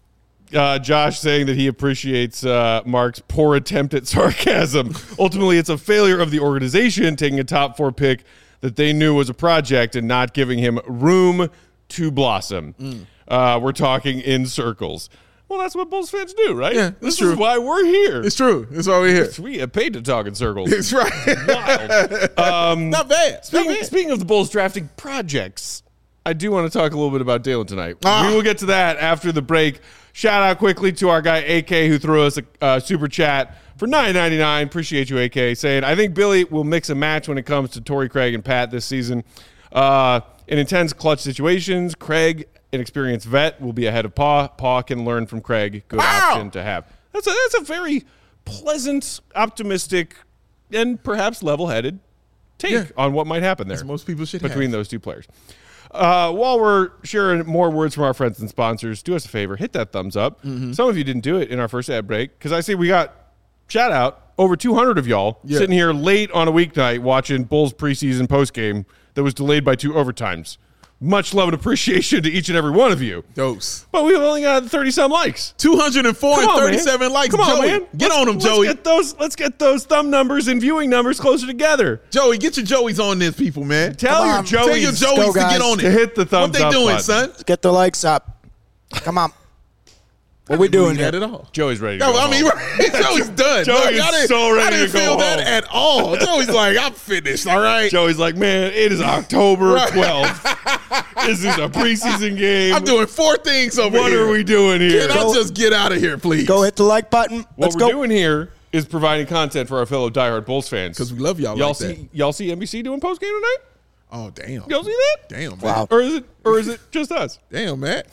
Uh, Josh saying that he appreciates uh, Mark's poor attempt at sarcasm. Ultimately, it's a failure of the organization taking a top four pick that they knew was a project and not giving him room to blossom. Mm. Uh, we're talking in circles. Well, that's what Bulls fans do, right? Yeah, that's this true. is why we're here. It's true. That's why we're here. We get paid to talk in circles. It's right. Wild. Um, Not bad. Speaking, Not bad. speaking of the Bulls drafting projects, I do want to talk a little bit about Dalen tonight. Ah. We will get to that after the break. Shout out quickly to our guy A K who threw us a uh, super chat for nine ninety-nine. Appreciate you, A K, saying, I think Billy will mix and match when it comes to Torrey Craig and Pat this season. Uh, in intense clutch situations, Craig, an experienced vet, will be ahead of Paw. Paw can learn from Craig. Good Wow. option to have. That's a, that's a very pleasant, optimistic, and perhaps level-headed take Yeah. on what might happen there As most people should between have. those two players. Uh, while we're sharing more words from our friends and sponsors, do us a favor, hit that thumbs up. Mm-hmm. Some of you didn't do it in our first ad break because I see we got, shout out, over two hundred of y'all Yeah. sitting here late on a weeknight watching Bulls preseason postgame that was delayed by two overtimes. Much love and appreciation to each and every one of you. Dose. But we've only got thirty-some likes. two hundred four Come and on, thirty-seven man. likes. Come on, Joey, man. get Let's- on them, let's Joey. Get those, let's get those thumb numbers and viewing numbers closer together. Joey, get your Joeys on this, people, man. Tell Come your on. Joeys, Tell your Joeys go, to guys. get on to it. hit the thumbs What they up doing, button. son? Let's get the likes up. Come on. What we doing that here? at all? Joey's ready to No, go I mean, home. Joey's done. Joey Look, is I didn't- so ready I didn't to go feel that home. at all. Joey's like, I'm finished. All right. Joey's like, man, it is October Right. twelfth. This is a preseason game. I'm doing four things over What here. are we doing here? Can I just get out of here, please? Go hit the like button. what Let's we're go. doing here is providing content for our fellow diehard Bulls fans. Because we love y'all Y'all like see, that. y'all see N B C doing post game tonight? Oh, damn. Y'all see that? Damn, man. Wow. Or is it, or is it just us? Damn, man.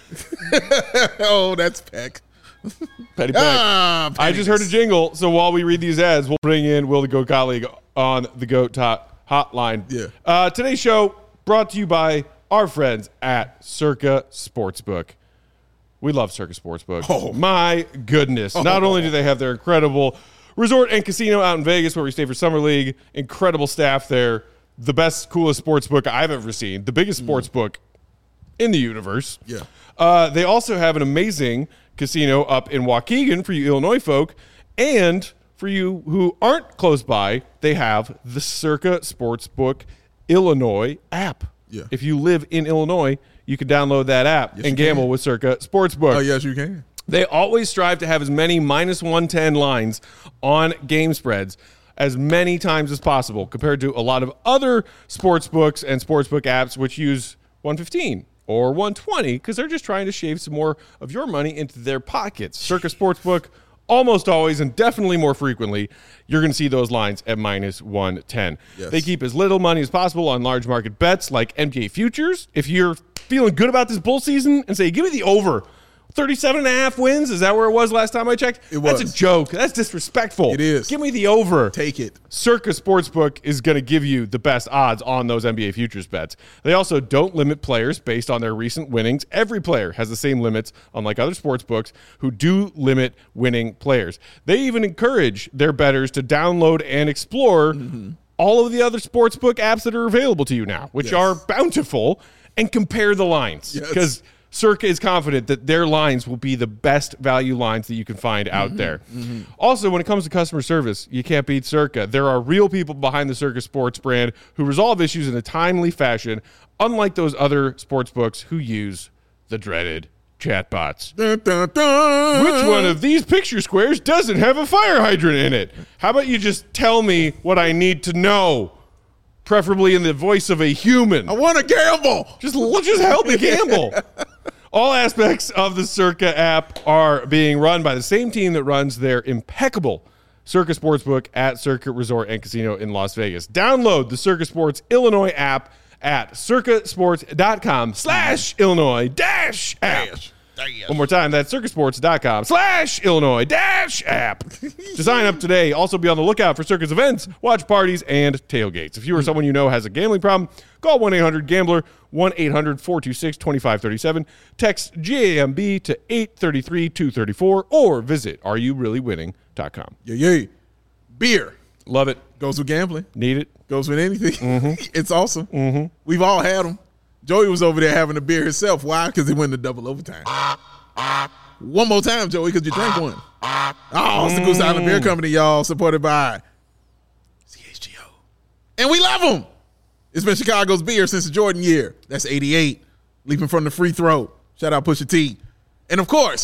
Oh, that's Peck. Petty Peck. Ah, I just heard a jingle, so while we read these ads, we'll bring in Will the Goat colleague on the Goat Top Hotline. Yeah. Uh, today's show brought to you by our friends at Circa Sportsbook. We love Circa Sportsbook. Oh. My goodness. Not only do they have their incredible resort and casino out in Vegas where we stay for Summer League, incredible staff there, the best, coolest sportsbook I've ever seen, the biggest sportsbook in the universe. Yeah. Uh, they also have an amazing casino up in Waukegan for you Illinois folk. And for you who aren't close by, they have the Circa Sportsbook Illinois app. Yeah. If you live in Illinois, you can download that app Yes, and you gamble can. with Circa Sportsbook. Oh, yes, you can. They always strive to have as many minus one ten lines on game spreads as many times as possible compared to a lot of other sports books and sportsbook apps which use one fifteen or one twenty because they're just trying to shave some more of your money into their pockets. Circa Sportsbook, almost always and definitely more frequently, you're going to see those lines at minus one ten. Yes. They keep as little money as possible on large market bets like N B A futures. If you're feeling good about this bull season and say, give me the over, thirty-seven and a half wins. Is that where it was last time I checked? It That's was. a joke. That's disrespectful. It is. Give me the over. Take it. Circa Sportsbook is going to give you the best odds on those N B A futures bets. They also don't limit players based on their recent winnings. Every player has the same limits, unlike other sports books who do limit winning players. They even encourage their bettors to download and explore Mm-hmm. all of the other sportsbook apps that are available to you now, which Yes. are bountiful, and compare the lines. Yes. Because Circa is confident that their lines will be the best value lines that you can find Mm-hmm. out there. Also, when it comes to customer service, you can't beat Circa. There are real people behind the Circa Sports brand who resolve issues in a timely fashion, unlike those other sports books who use the dreaded chatbots. Dun, dun, dun. Which one of these picture squares doesn't have a fire hydrant in it? How about you just tell me what I need to know, preferably in the voice of a human? I want to gamble. Just, just help me gamble. All aspects of the Circa app are being run by the same team that runs their impeccable Circa Sportsbook at Circa Resort and Casino in Las Vegas. Download the Circa Sports Illinois app at circasports.com slash Illinois dash app. One more time, that's circasports.com slash Illinois dash app. To sign up today, also be on the lookout for Circa's events, watch parties, and tailgates. If you or someone you know has a gambling problem, call one eight hundred gambler, one eight hundred four two six two five three seven, text G A M B to eight three three two three four, or visit are you really winning dot com. Yeah, yeah. Beer Love it. goes with gambling. Need it. Goes with anything. Mm-hmm. It's awesome. Mm-hmm. We've all had them. Joey was over there having a beer himself. Why? Because he went to double overtime. One more time, Joey, because you drank one. Oh, it's the Goose Island Beer Company, y'all, supported by C H G O. And we love them. It's been Chicago's beer since the Jordan year. That's eighty-eight. Leaping from the free throw. Shout out Pusha T. And, of course,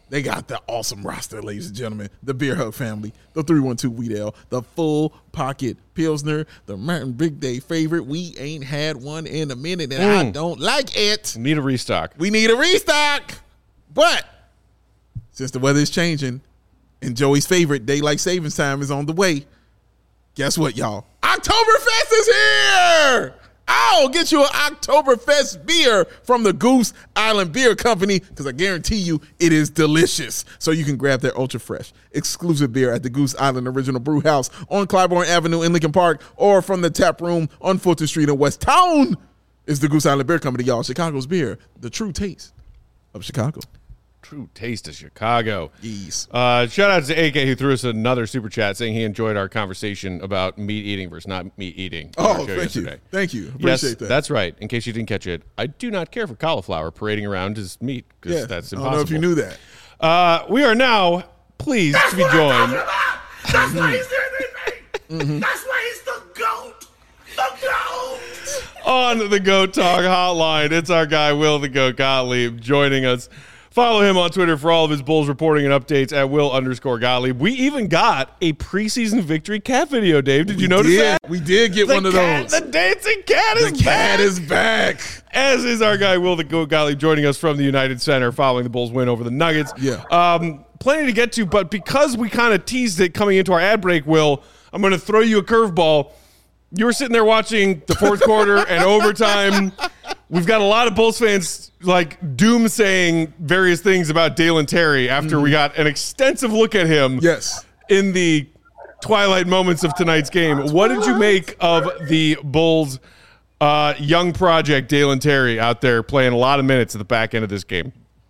They got the awesome roster, ladies and gentlemen. The Beer Hug family, the three one two Wheat Ale, the Full Pocket Pilsner, the Martin Big Day favorite. We ain't had one in a minute, and mm. I don't like it. Need a restock. We need a restock. But since the weather is changing and Joey's favorite daylight savings time is on the way, guess what, y'all? Oktoberfest is here! I'll get you an Oktoberfest beer from the Goose Island Beer Company because I guarantee you it is delicious. So you can grab their ultra fresh, exclusive beer at the Goose Island Original Brew House on Clybourne Avenue in Lincoln Park, or from the tap room on Fulton Street in West Town. It's the Goose Island Beer Company, y'all. Chicago's beer, the true taste of Chicago. True taste of Chicago. Yes. Uh, shout out to A K who threw us another super chat saying he enjoyed our conversation about meat eating versus not meat eating. Oh, thank yesterday. you. Thank you. Appreciate yes, that. That's right. In case you didn't catch it, I do not care for cauliflower parading around as meat because yeah, that's impossible. I don't know if you knew that. Uh, we are now pleased that's to be joined. That's mm-hmm. why he's doing mm-hmm. That's why he's the GOAT. The GOAT. On the Goat Talk hotline, it's our guy Will the Goat Gottlieb joining us. Follow him on Twitter for all of his Bulls reporting and updates at Will underscore Gottlieb. We even got a preseason victory cat video, Dave. Did we you notice did. that? We did get the one of cat, those. The dancing cat is the back. cat is back. As is our guy Will the Goat Gottlieb joining us from the United Center following the Bulls win over the Nuggets. Yeah. Um, plenty to get to, but because we kind of teased it coming into our ad break, Will, I'm going to throw you a curveball. You were sitting there watching the fourth quarter and overtime. We've got a lot of Bulls fans like doom saying various things about Dalen Terry after mm. we got an extensive look at him. Yes. In the twilight moments of tonight's game. What did you make of the Bulls' uh, young project, Dalen Terry, out there playing a lot of minutes at the back end of this game?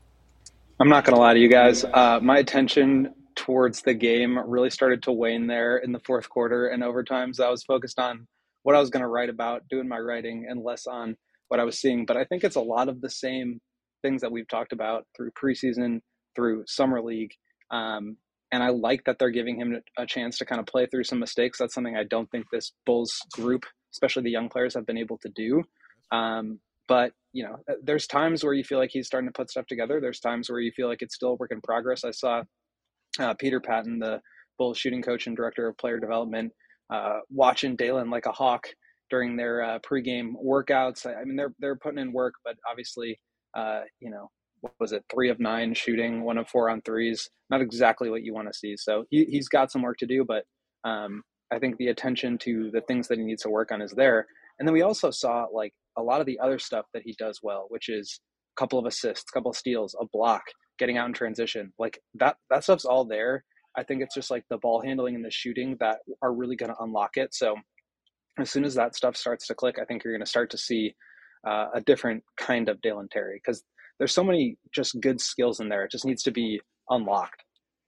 I'm not going to lie to you guys. Uh, my attention towards the game really started to wane there in the fourth quarter and overtime. So I was focused on what I was going to write about, doing my writing, and less on what I was seeing. But I think it's a lot of the same things that we've talked about through preseason, through summer league. Um, and I like that they're giving him a chance to kind of play through some mistakes. That's something I don't think this Bulls group, especially the young players, have been able to do. Um, but, you know, there's times where you feel like he's starting to put stuff together. There's times where you feel like it's still a work in progress. I saw uh, Peter Patton, the Bulls shooting coach and director of player development, uh, watching Dalen like a hawk during their uh, pregame workouts. I mean, they're they're putting in work, but obviously, uh, you know, what was it? Three of nine shooting, one of four on threes. Not exactly what you want to see. So he he's got some work to do, but um, I think the attention to the things that he needs to work on is there. And then we also saw like a lot of the other stuff that he does well, which is a couple of assists, a couple of steals, a block, getting out in transition. Like that that stuff's all there. I think it's just like the ball handling and the shooting that are really going to unlock it. So as soon as that stuff starts to click, I think you're going to start to see uh, a different kind of Dalen Terry, because there's so many just good skills in there. It just needs to be unlocked.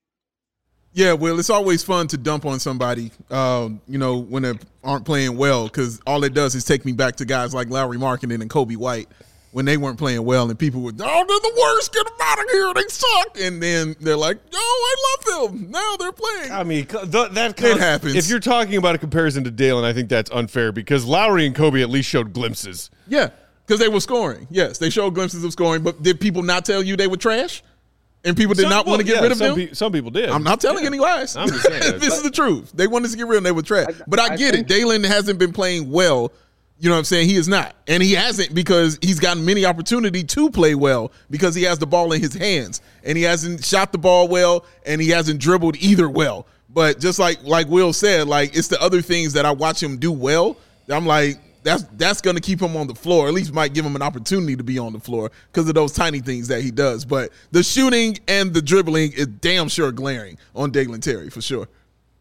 Yeah, well, it's always fun to dump on somebody, uh, you know, when they aren't playing well, because all it does is take me back to guys like Lowry Markkanen and Kobe White when they weren't playing well, and people would, oh, they're the worst, get them out of here, they suck. And then they're like, oh, I love them. Now they're playing. I mean, th- that it happens. If you're talking about a comparison to Dalen, I think that's unfair because Lowry and Kobe at least showed glimpses. Yeah, because they were scoring. Yes, they showed glimpses of scoring, but did people not tell you they were trash? And people did some, not want to get yeah, rid of some them? Pe- some people did. I'm not telling yeah. any lies. I'm just saying. This is the truth. They wanted to get rid of them. They were trash. I, but I, I get it. Dalen hasn't been playing well. You know what I'm saying? He is not. And he hasn't because he's gotten many opportunity to play well because he has the ball in his hands. And he hasn't shot the ball well, and he hasn't dribbled either well. But just like like Will said, like it's the other things that I watch him do well. I'm like, that's that's going to keep him on the floor. At least might give him an opportunity to be on the floor because of those tiny things that he does. But the shooting and the dribbling is damn sure glaring on Dalen Terry for sure.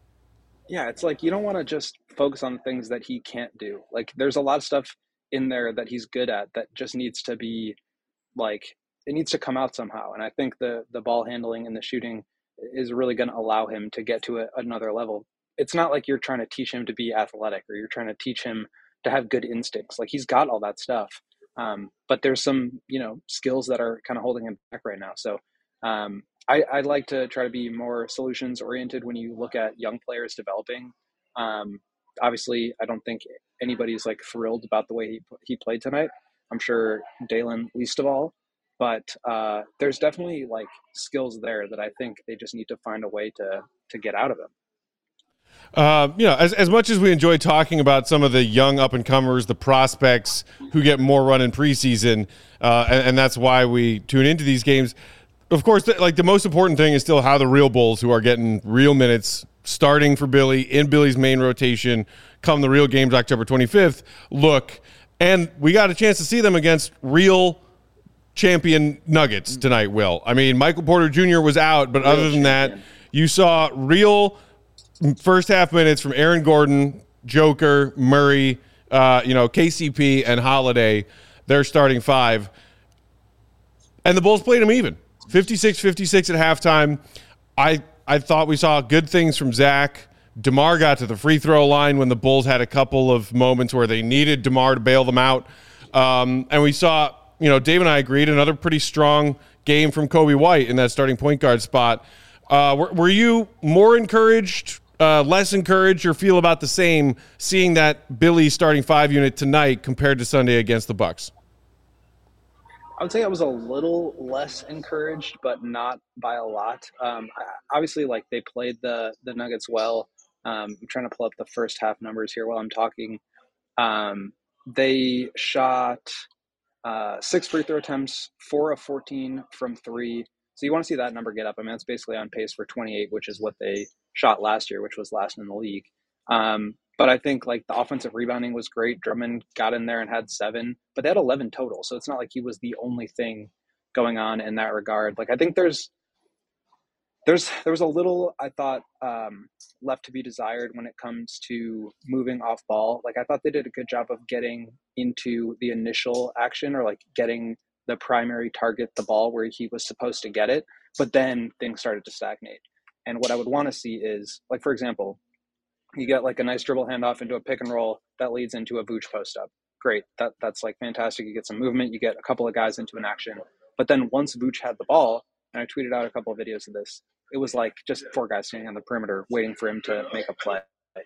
Yeah, it's like you don't want to just focus on the things that he can't do. Like there's a lot of stuff in there that he's good at that just needs to be like, it needs to come out somehow. And I think the the ball handling and the shooting is really going to allow him to get to a, another level. It's not like you're trying to teach him to be athletic or you're trying to teach him to have good instincts. Like he's got all that stuff. Um, but there's some, you know, skills that are kind of holding him back right now. So um, I, I like to try to be more solutions oriented when you look at young players developing. Um, obviously, I don't think anybody's like thrilled about the way he he played tonight. I'm sure Dalen least of all. but uh, there's definitely like skills there that I think they just need to find a way to to get out of him. Uh, you know, as, as much as we enjoy talking about some of the young up-and-comers, the prospects who get more run in preseason, uh, and, and that's why we tune into these games, of course, th- like the most important thing is still how the real Bulls who are getting real minutes starting for Billy in Billy's main rotation come the real games October twenty-fifth look. And we got a chance to see them against real champion Nuggets tonight, Will. I mean, Michael Porter Junior was out, but real other than champion. that, you saw real first half minutes from Aaron Gordon, Joker, Murray, uh, you know, K C P, and Holiday. They're starting five. And the Bulls played them even. fifty-six fifty-six at halftime. I I thought we saw good things from Zach. DeMar got to the free throw line when the Bulls had a couple of moments where they needed DeMar to bail them out. Um, and we saw, you know, Dave and I agreed, another pretty strong game from Kobe White in that starting point guard spot. Uh, were, were you more encouraged, uh, less encouraged, or feel about the same seeing that Billy starting five unit tonight compared to Sunday against the Bucks? I would say I was a little less encouraged, but not by a lot. Um, obviously, like they played the the Nuggets well. Um, I'm trying to pull up the first half numbers here while I'm talking. Um, they shot uh, six free throw attempts, four of fourteen from three. So you want to see that number get up. I mean, that's basically on pace for twenty-eight, which is what they shot last year, which was last in the league. Um, but I think like the offensive rebounding was great. Drummond got in there and had seven, but they had eleven total. So it's not like he was the only thing going on in that regard. Like I think there's there's there was a little I thought um, left to be desired when it comes to moving off ball. Like I thought they did a good job of getting into the initial action or like getting the primary target the ball where he was supposed to get it, but then things started to stagnate. And what I would want to see is like, for example, you get like a nice dribble handoff into a pick and roll that leads into a Vooch post up. Great. That that's like fantastic. You get some movement, you get a couple of guys into an action. But then once Vooch had the ball, and I tweeted out a couple of videos of this, it was like just four guys standing on the perimeter waiting for him to make a play.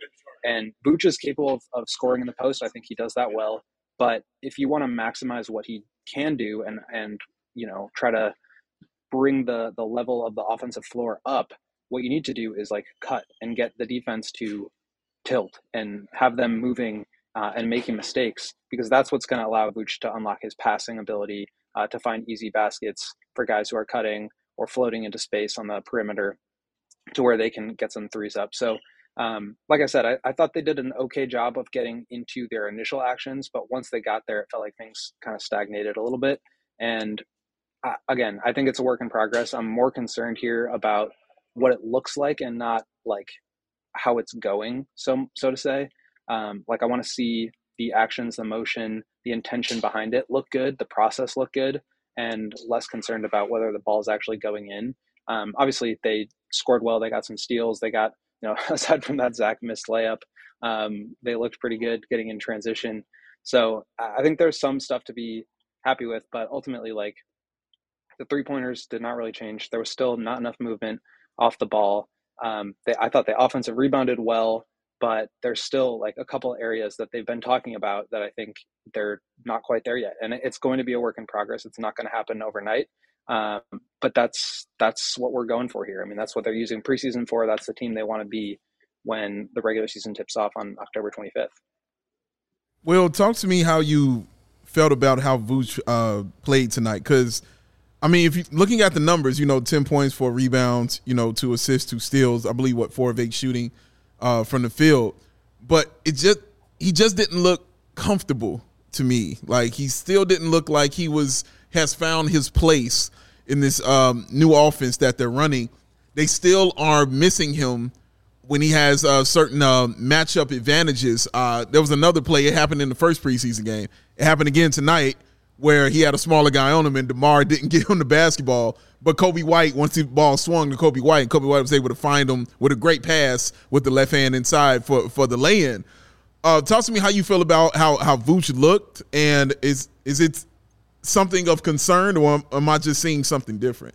And Vooch is capable of, of scoring in the post. I think he does that well. But if you want to maximize what he can do and and you know try to bring the the level of the offensive floor up, what you need to do is like cut and get the defense to tilt and have them moving uh, and making mistakes, because that's what's going to allow Vooch to unlock his passing ability, uh, to find easy baskets for guys who are cutting or floating into space on the perimeter to where they can get some threes up. So um, like I said, I, I thought they did an okay job of getting into their initial actions, but once they got there, it felt like things kind of stagnated a little bit. And uh, again, I think it's a work in progress. I'm more concerned here about what it looks like and not like how it's going, so so to say. Um, like I want to see the actions, the motion, the intention behind it look good, the process look good, and less concerned about whether the ball is actually going in. Um, obviously, they scored well. They got some steals. They got, you know, aside from that Zach missed layup, um, they looked pretty good getting in transition. So I think there's some stuff to be happy with, but ultimately, like the three pointers did not really change. There was still not enough movement off the ball. Um, they, I thought the offensive rebounded well, but there's still like a couple areas that they've been talking about that I think they're not quite there yet. And it's going to be a work in progress. It's not going to happen overnight. Um, but that's, that's what we're going for here. I mean, that's what they're using preseason for. That's the team they want to be when the regular season tips off on October twenty-fifth. Will, talk to me how you felt about how Vooch uh, played tonight. Cause I mean, if you looking at the numbers, you know, ten points, four rebounds, you know, two assists, two steals, I believe what four of eight shooting uh, from the field, but it just, he just didn't look comfortable to me. Like he still didn't look like he was, has found his place in this um, new offense that they're running. They still are missing him when he has uh, certain uh, matchup advantages. Uh, there was another play. It happened in the first preseason game. It happened again tonight, where he had a smaller guy on him and DeMar didn't get him the basketball. But Kobe White, once the ball swung to Kobe White, and Kobe White was able to find him with a great pass with the left hand inside for, for the lay-in. Uh, talk to me how you feel about how, how Vooch looked, and is is it something of concern, or am I just seeing something different?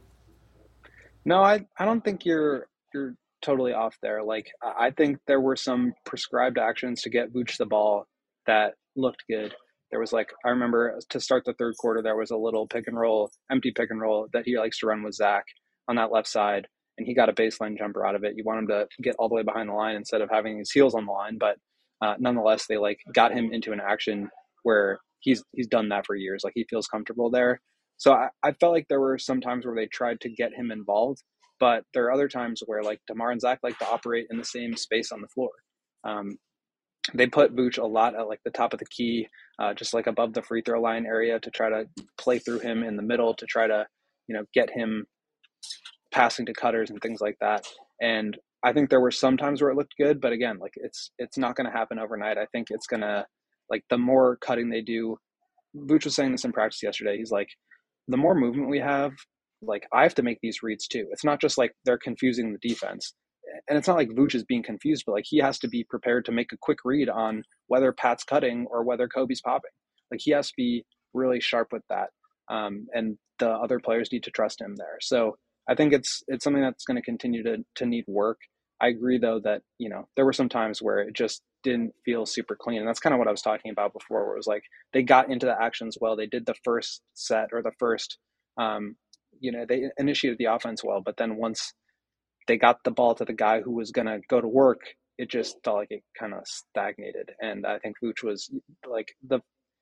No, I, I don't think you're you're totally off there. Like I think there were some prescribed actions to get Vooch the ball that looked good. there was like, I remember to start the third quarter, there was a little pick and roll, empty pick and roll that he likes to run with Zach on that left side. And he got a baseline jumper out of it. You want him to get all the way behind the line instead of having his heels on the line. But uh, nonetheless, they like got him into an action where he's, he's done that for years. Like he feels comfortable there. So I, I felt like there were some times where they tried to get him involved, but there are other times where like DeMar and Zach like to operate in the same space on the floor. Um, they put Vooch a lot at like the top of the key, uh, just like above the free throw line area to try to play through him in the middle to try to, you know, get him passing to cutters and things like that. And I think there were some times where it looked good, but again, like it's, it's not going to happen overnight. I think it's going to, like the more cutting they do, Vooch was saying this in practice yesterday. He's like, the more movement we have, like I have to make these reads too. It's not just like they're confusing the defense. And it's not like Vooch is being confused, but like he has to be prepared to make a quick read on whether Pat's cutting or whether Kobe's popping. Like he has to be really sharp with that. Um, and the other players need to trust him there. So I think it's it's something that's going to continue to to need work. I agree though that, you know, there were some times where it just didn't feel super clean. And that's kind of what I was talking about before, where it was like they got into the actions well. They did the first set or the first, um, you know, they initiated the offense well. But then once they got the ball to the guy who was going to go to work, it just felt like it kind of stagnated. And I think Vooch was like the,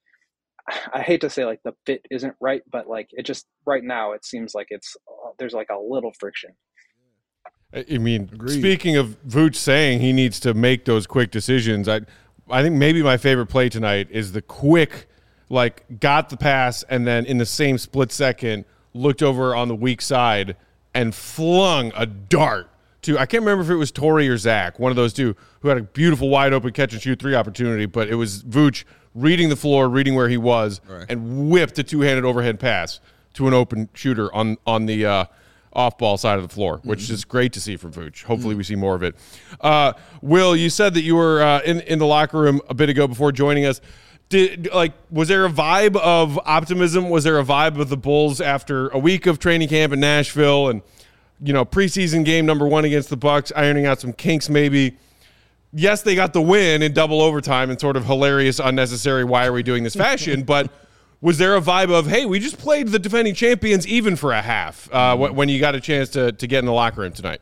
I hate to say like the fit isn't right, but like it just right now it seems like it's, there's like a little friction. I mean, Agreed. Speaking of Vooch saying he needs to make those quick decisions, I I think maybe my favorite play tonight is the quick, like, got the pass and then in the same split second looked over on the weak side and flung a dart to, I can't remember if it was Torrey or Zach, one of those two, who had a beautiful wide open catch and shoot three opportunity, but it was Vooch reading the floor, reading where he was, right, and whipped a two-handed overhead pass to an open shooter on, on the uh, – off-ball side of the floor, which mm-hmm. is great to see from Vooch. Hopefully mm-hmm. we see more of it. Uh, Will, you said that you were uh, in, in the locker room a bit ago before joining us. Did like was there a vibe of optimism? Was there a vibe of the Bulls after a week of training camp in Nashville and, you know, preseason game number one against the Bucks, ironing out some kinks maybe? Yes, they got the win in double overtime in sort of hilarious, unnecessary, why are we doing this fashion, but was there a vibe of, hey, we just played the defending champions even for a half uh, mm-hmm. when you got a chance to to get in the locker room tonight?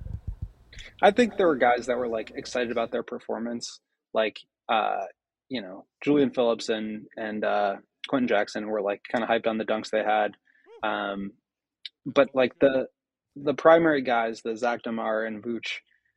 I think there were guys that were like excited about their performance, like uh, you know, Julian Phillips and and uh, Quentin Jackson were like kind of hyped on the dunks they had, um, but like the the primary guys, the Zach DeMar and Vooch,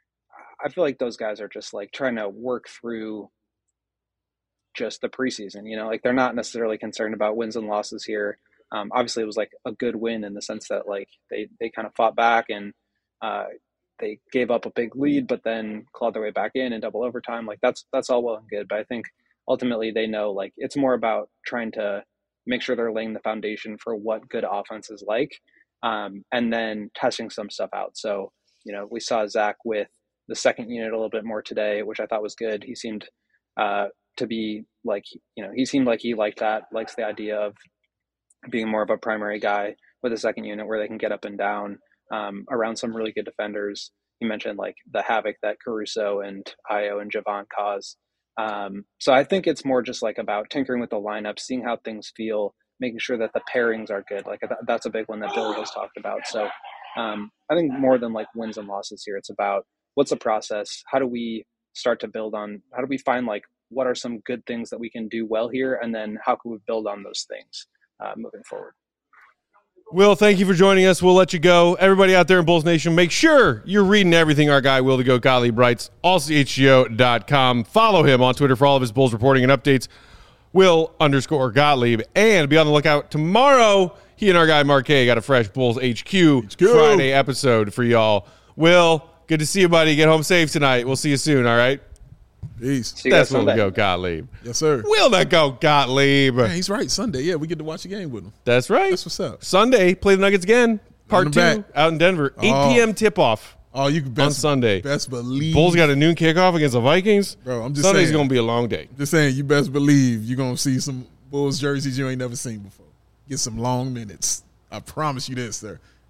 I feel like those guys are just like trying to work through just the preseason, you know, like they're not necessarily concerned about wins and losses here. Um, obviously it was like a good win in the sense that like they, they kind of fought back and uh, they gave up a big lead, but then clawed their way back in in double overtime. Like that's, that's all well and good. But I think ultimately they know like it's more about trying to make sure they're laying the foundation for what good offense is like, um, and then testing some stuff out. So, you know, we saw Zach with the second unit a little bit more today, which I thought was good. He seemed, uh, to be like, you know, he seemed like he liked that, likes the idea of being more of a primary guy with a second unit where they can get up and down um, around some really good defenders. You mentioned like the havoc that Caruso and Ayo and Javon cause. Um, so I think it's more just like about tinkering with the lineup, seeing how things feel, making sure that the pairings are good. Like th- that's a big one that Billy has talked about. So um, I think more than like wins and losses here, it's about what's the process? How do we start to build on, how do we find like, what are some good things that we can do well here? And then how can we build on those things uh, moving forward? Will, thank you for joining us. We'll let you go. Everybody out there in Bulls Nation, make sure you're reading everything our guy Will the Goat Gottlieb writes, all C H G O dot com. Follow him on Twitter for all of his Bulls reporting and updates, Will underscore Gottlieb. And be on the lookout tomorrow. He and our guy Mark K got a fresh Bulls H Q H Q Friday episode for y'all. Will, good to see you, buddy. Get home safe tonight. We'll see you soon, all right? Peace. See you guys That's Will the Sunday. Goat Gottlieb. Yes, sir. Will the Goat Gottlieb. Man, he's right. Sunday, yeah, we get to watch a game with him. That's right. That's what's up. Sunday, play the Nuggets again. Part Run two them back. out in Denver. eight Oh. p.m. tip-off Oh, you can best, on Sunday. best believe. Bulls got a noon kickoff against the Vikings. Bro, I'm just Sunday's saying. going to be a long day. Just saying, you best believe you're going to see some Bulls jerseys you ain't never seen before. Get some long minutes. I promise you this, sir.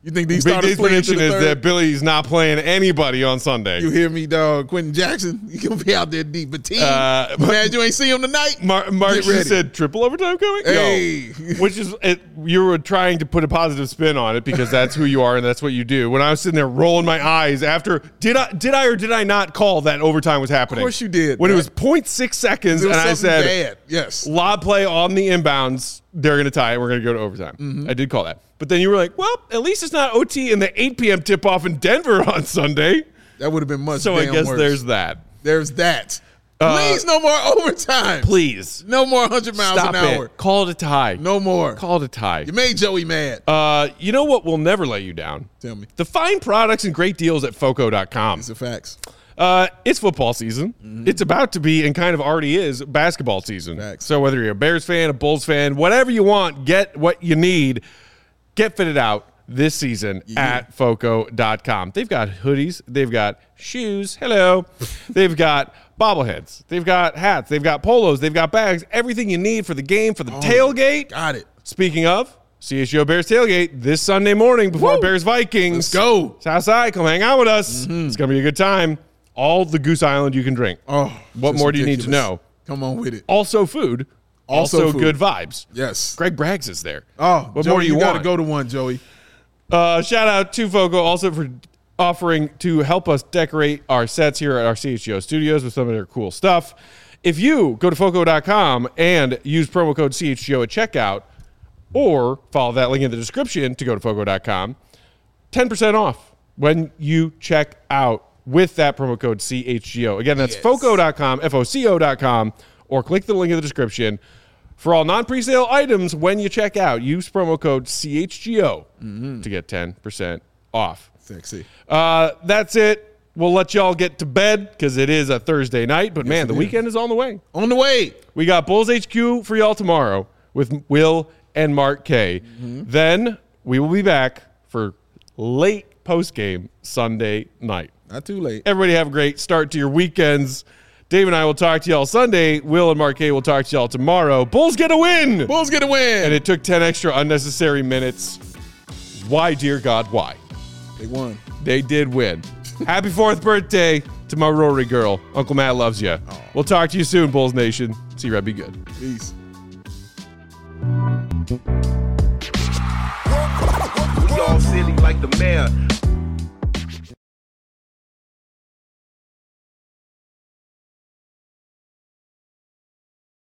You think these Big starters D's play into prediction the is third? that Billy's not playing anybody on Sunday. You hear me, dog? Quentin Jackson, you gonna be out there deep. But team, Uh, man, you ain't see him tonight. Mar- Mark Get ready. just said triple overtime coming. Hey. Yo, which is it, you were trying to put a positive spin on it because that's who you are and that's what you do. When I was sitting there rolling my eyes after, did I did I or did I not call that overtime was happening? Of course you did. When man. it was zero point six seconds It was and I something said, bad. Yes. lob play on the inbounds, they're going to tie it. We're going to go to overtime. Mm-hmm. I did call that. But then you were like, well, at least it's not O T in the eight p.m. tip-off in Denver on Sunday. That would have been much. So I damn guess worse. there's that. There's that. Uh, Please, no more overtime. Please. No more one hundred miles Stop an hour. it. Call it a tie. No more. Call it a tie. You made Joey mad. Uh, you know what will never let you down? Tell me. The fine products and great deals at Foco dot com. It's the facts. Uh, it's football season. Mm-hmm. It's about to be and kind of already is basketball season. Facts. So whether you're a Bears fan, a Bulls fan, whatever you want, get what you need. Get fitted out this season Yeah. at Foco dot com. They've got hoodies. They've got shoes. Hello. They've got bobbleheads. They've got hats. They've got polos. They've got bags. Everything you need for the game, for the tailgate. Got it. Speaking of, C H G O Bears Tailgate this Sunday morning before Woo! Bears Vikings. Let's go. Southside, come hang out with us. It's going to be a good time. All the Goose Island you can drink. Oh, What just more do you need to ridiculous. know? Come on with it. Also food. Also Also, food. good vibes. Yes. Greg Braggs is there. Oh, what Joey, more do you, you want? got to go to one, Joey. Uh, shout out to Foco also for offering to help us decorate our sets here at our C H G O studios with some of their cool stuff. If you go to Foco dot com and use promo code C H G O at checkout, or follow that link in the description to go to Foco dot com, ten percent off when you check out with that promo code C H G O. Again, that's Yes. Foco dot com, F O C O dot com, or click the link in the description. For all non-presale items, when you check out, use promo code C H G O to get ten percent off. Sexy. Uh, that's it. We'll let y'all get to bed because it is a Thursday night. But, man, it the is. weekend is on the way. On the way. We got Bulls H Q for y'all tomorrow with Will and Mark K. Mm-hmm. Then we will be back for late postgame Sunday night. Not too late. Everybody have a great start to your weekends. Dave and I will talk to y'all Sunday. Will and Mark K will talk to y'all tomorrow. Bulls get a win! Bulls get a win. And it took ten extra unnecessary minutes. Why, dear God, why? They won. They did win. Happy fourth birthday to my Rory girl. Uncle Matt loves you. We'll talk to you soon, Bulls Nation. See you, Red. Be good. Peace. We all silly like the mayor.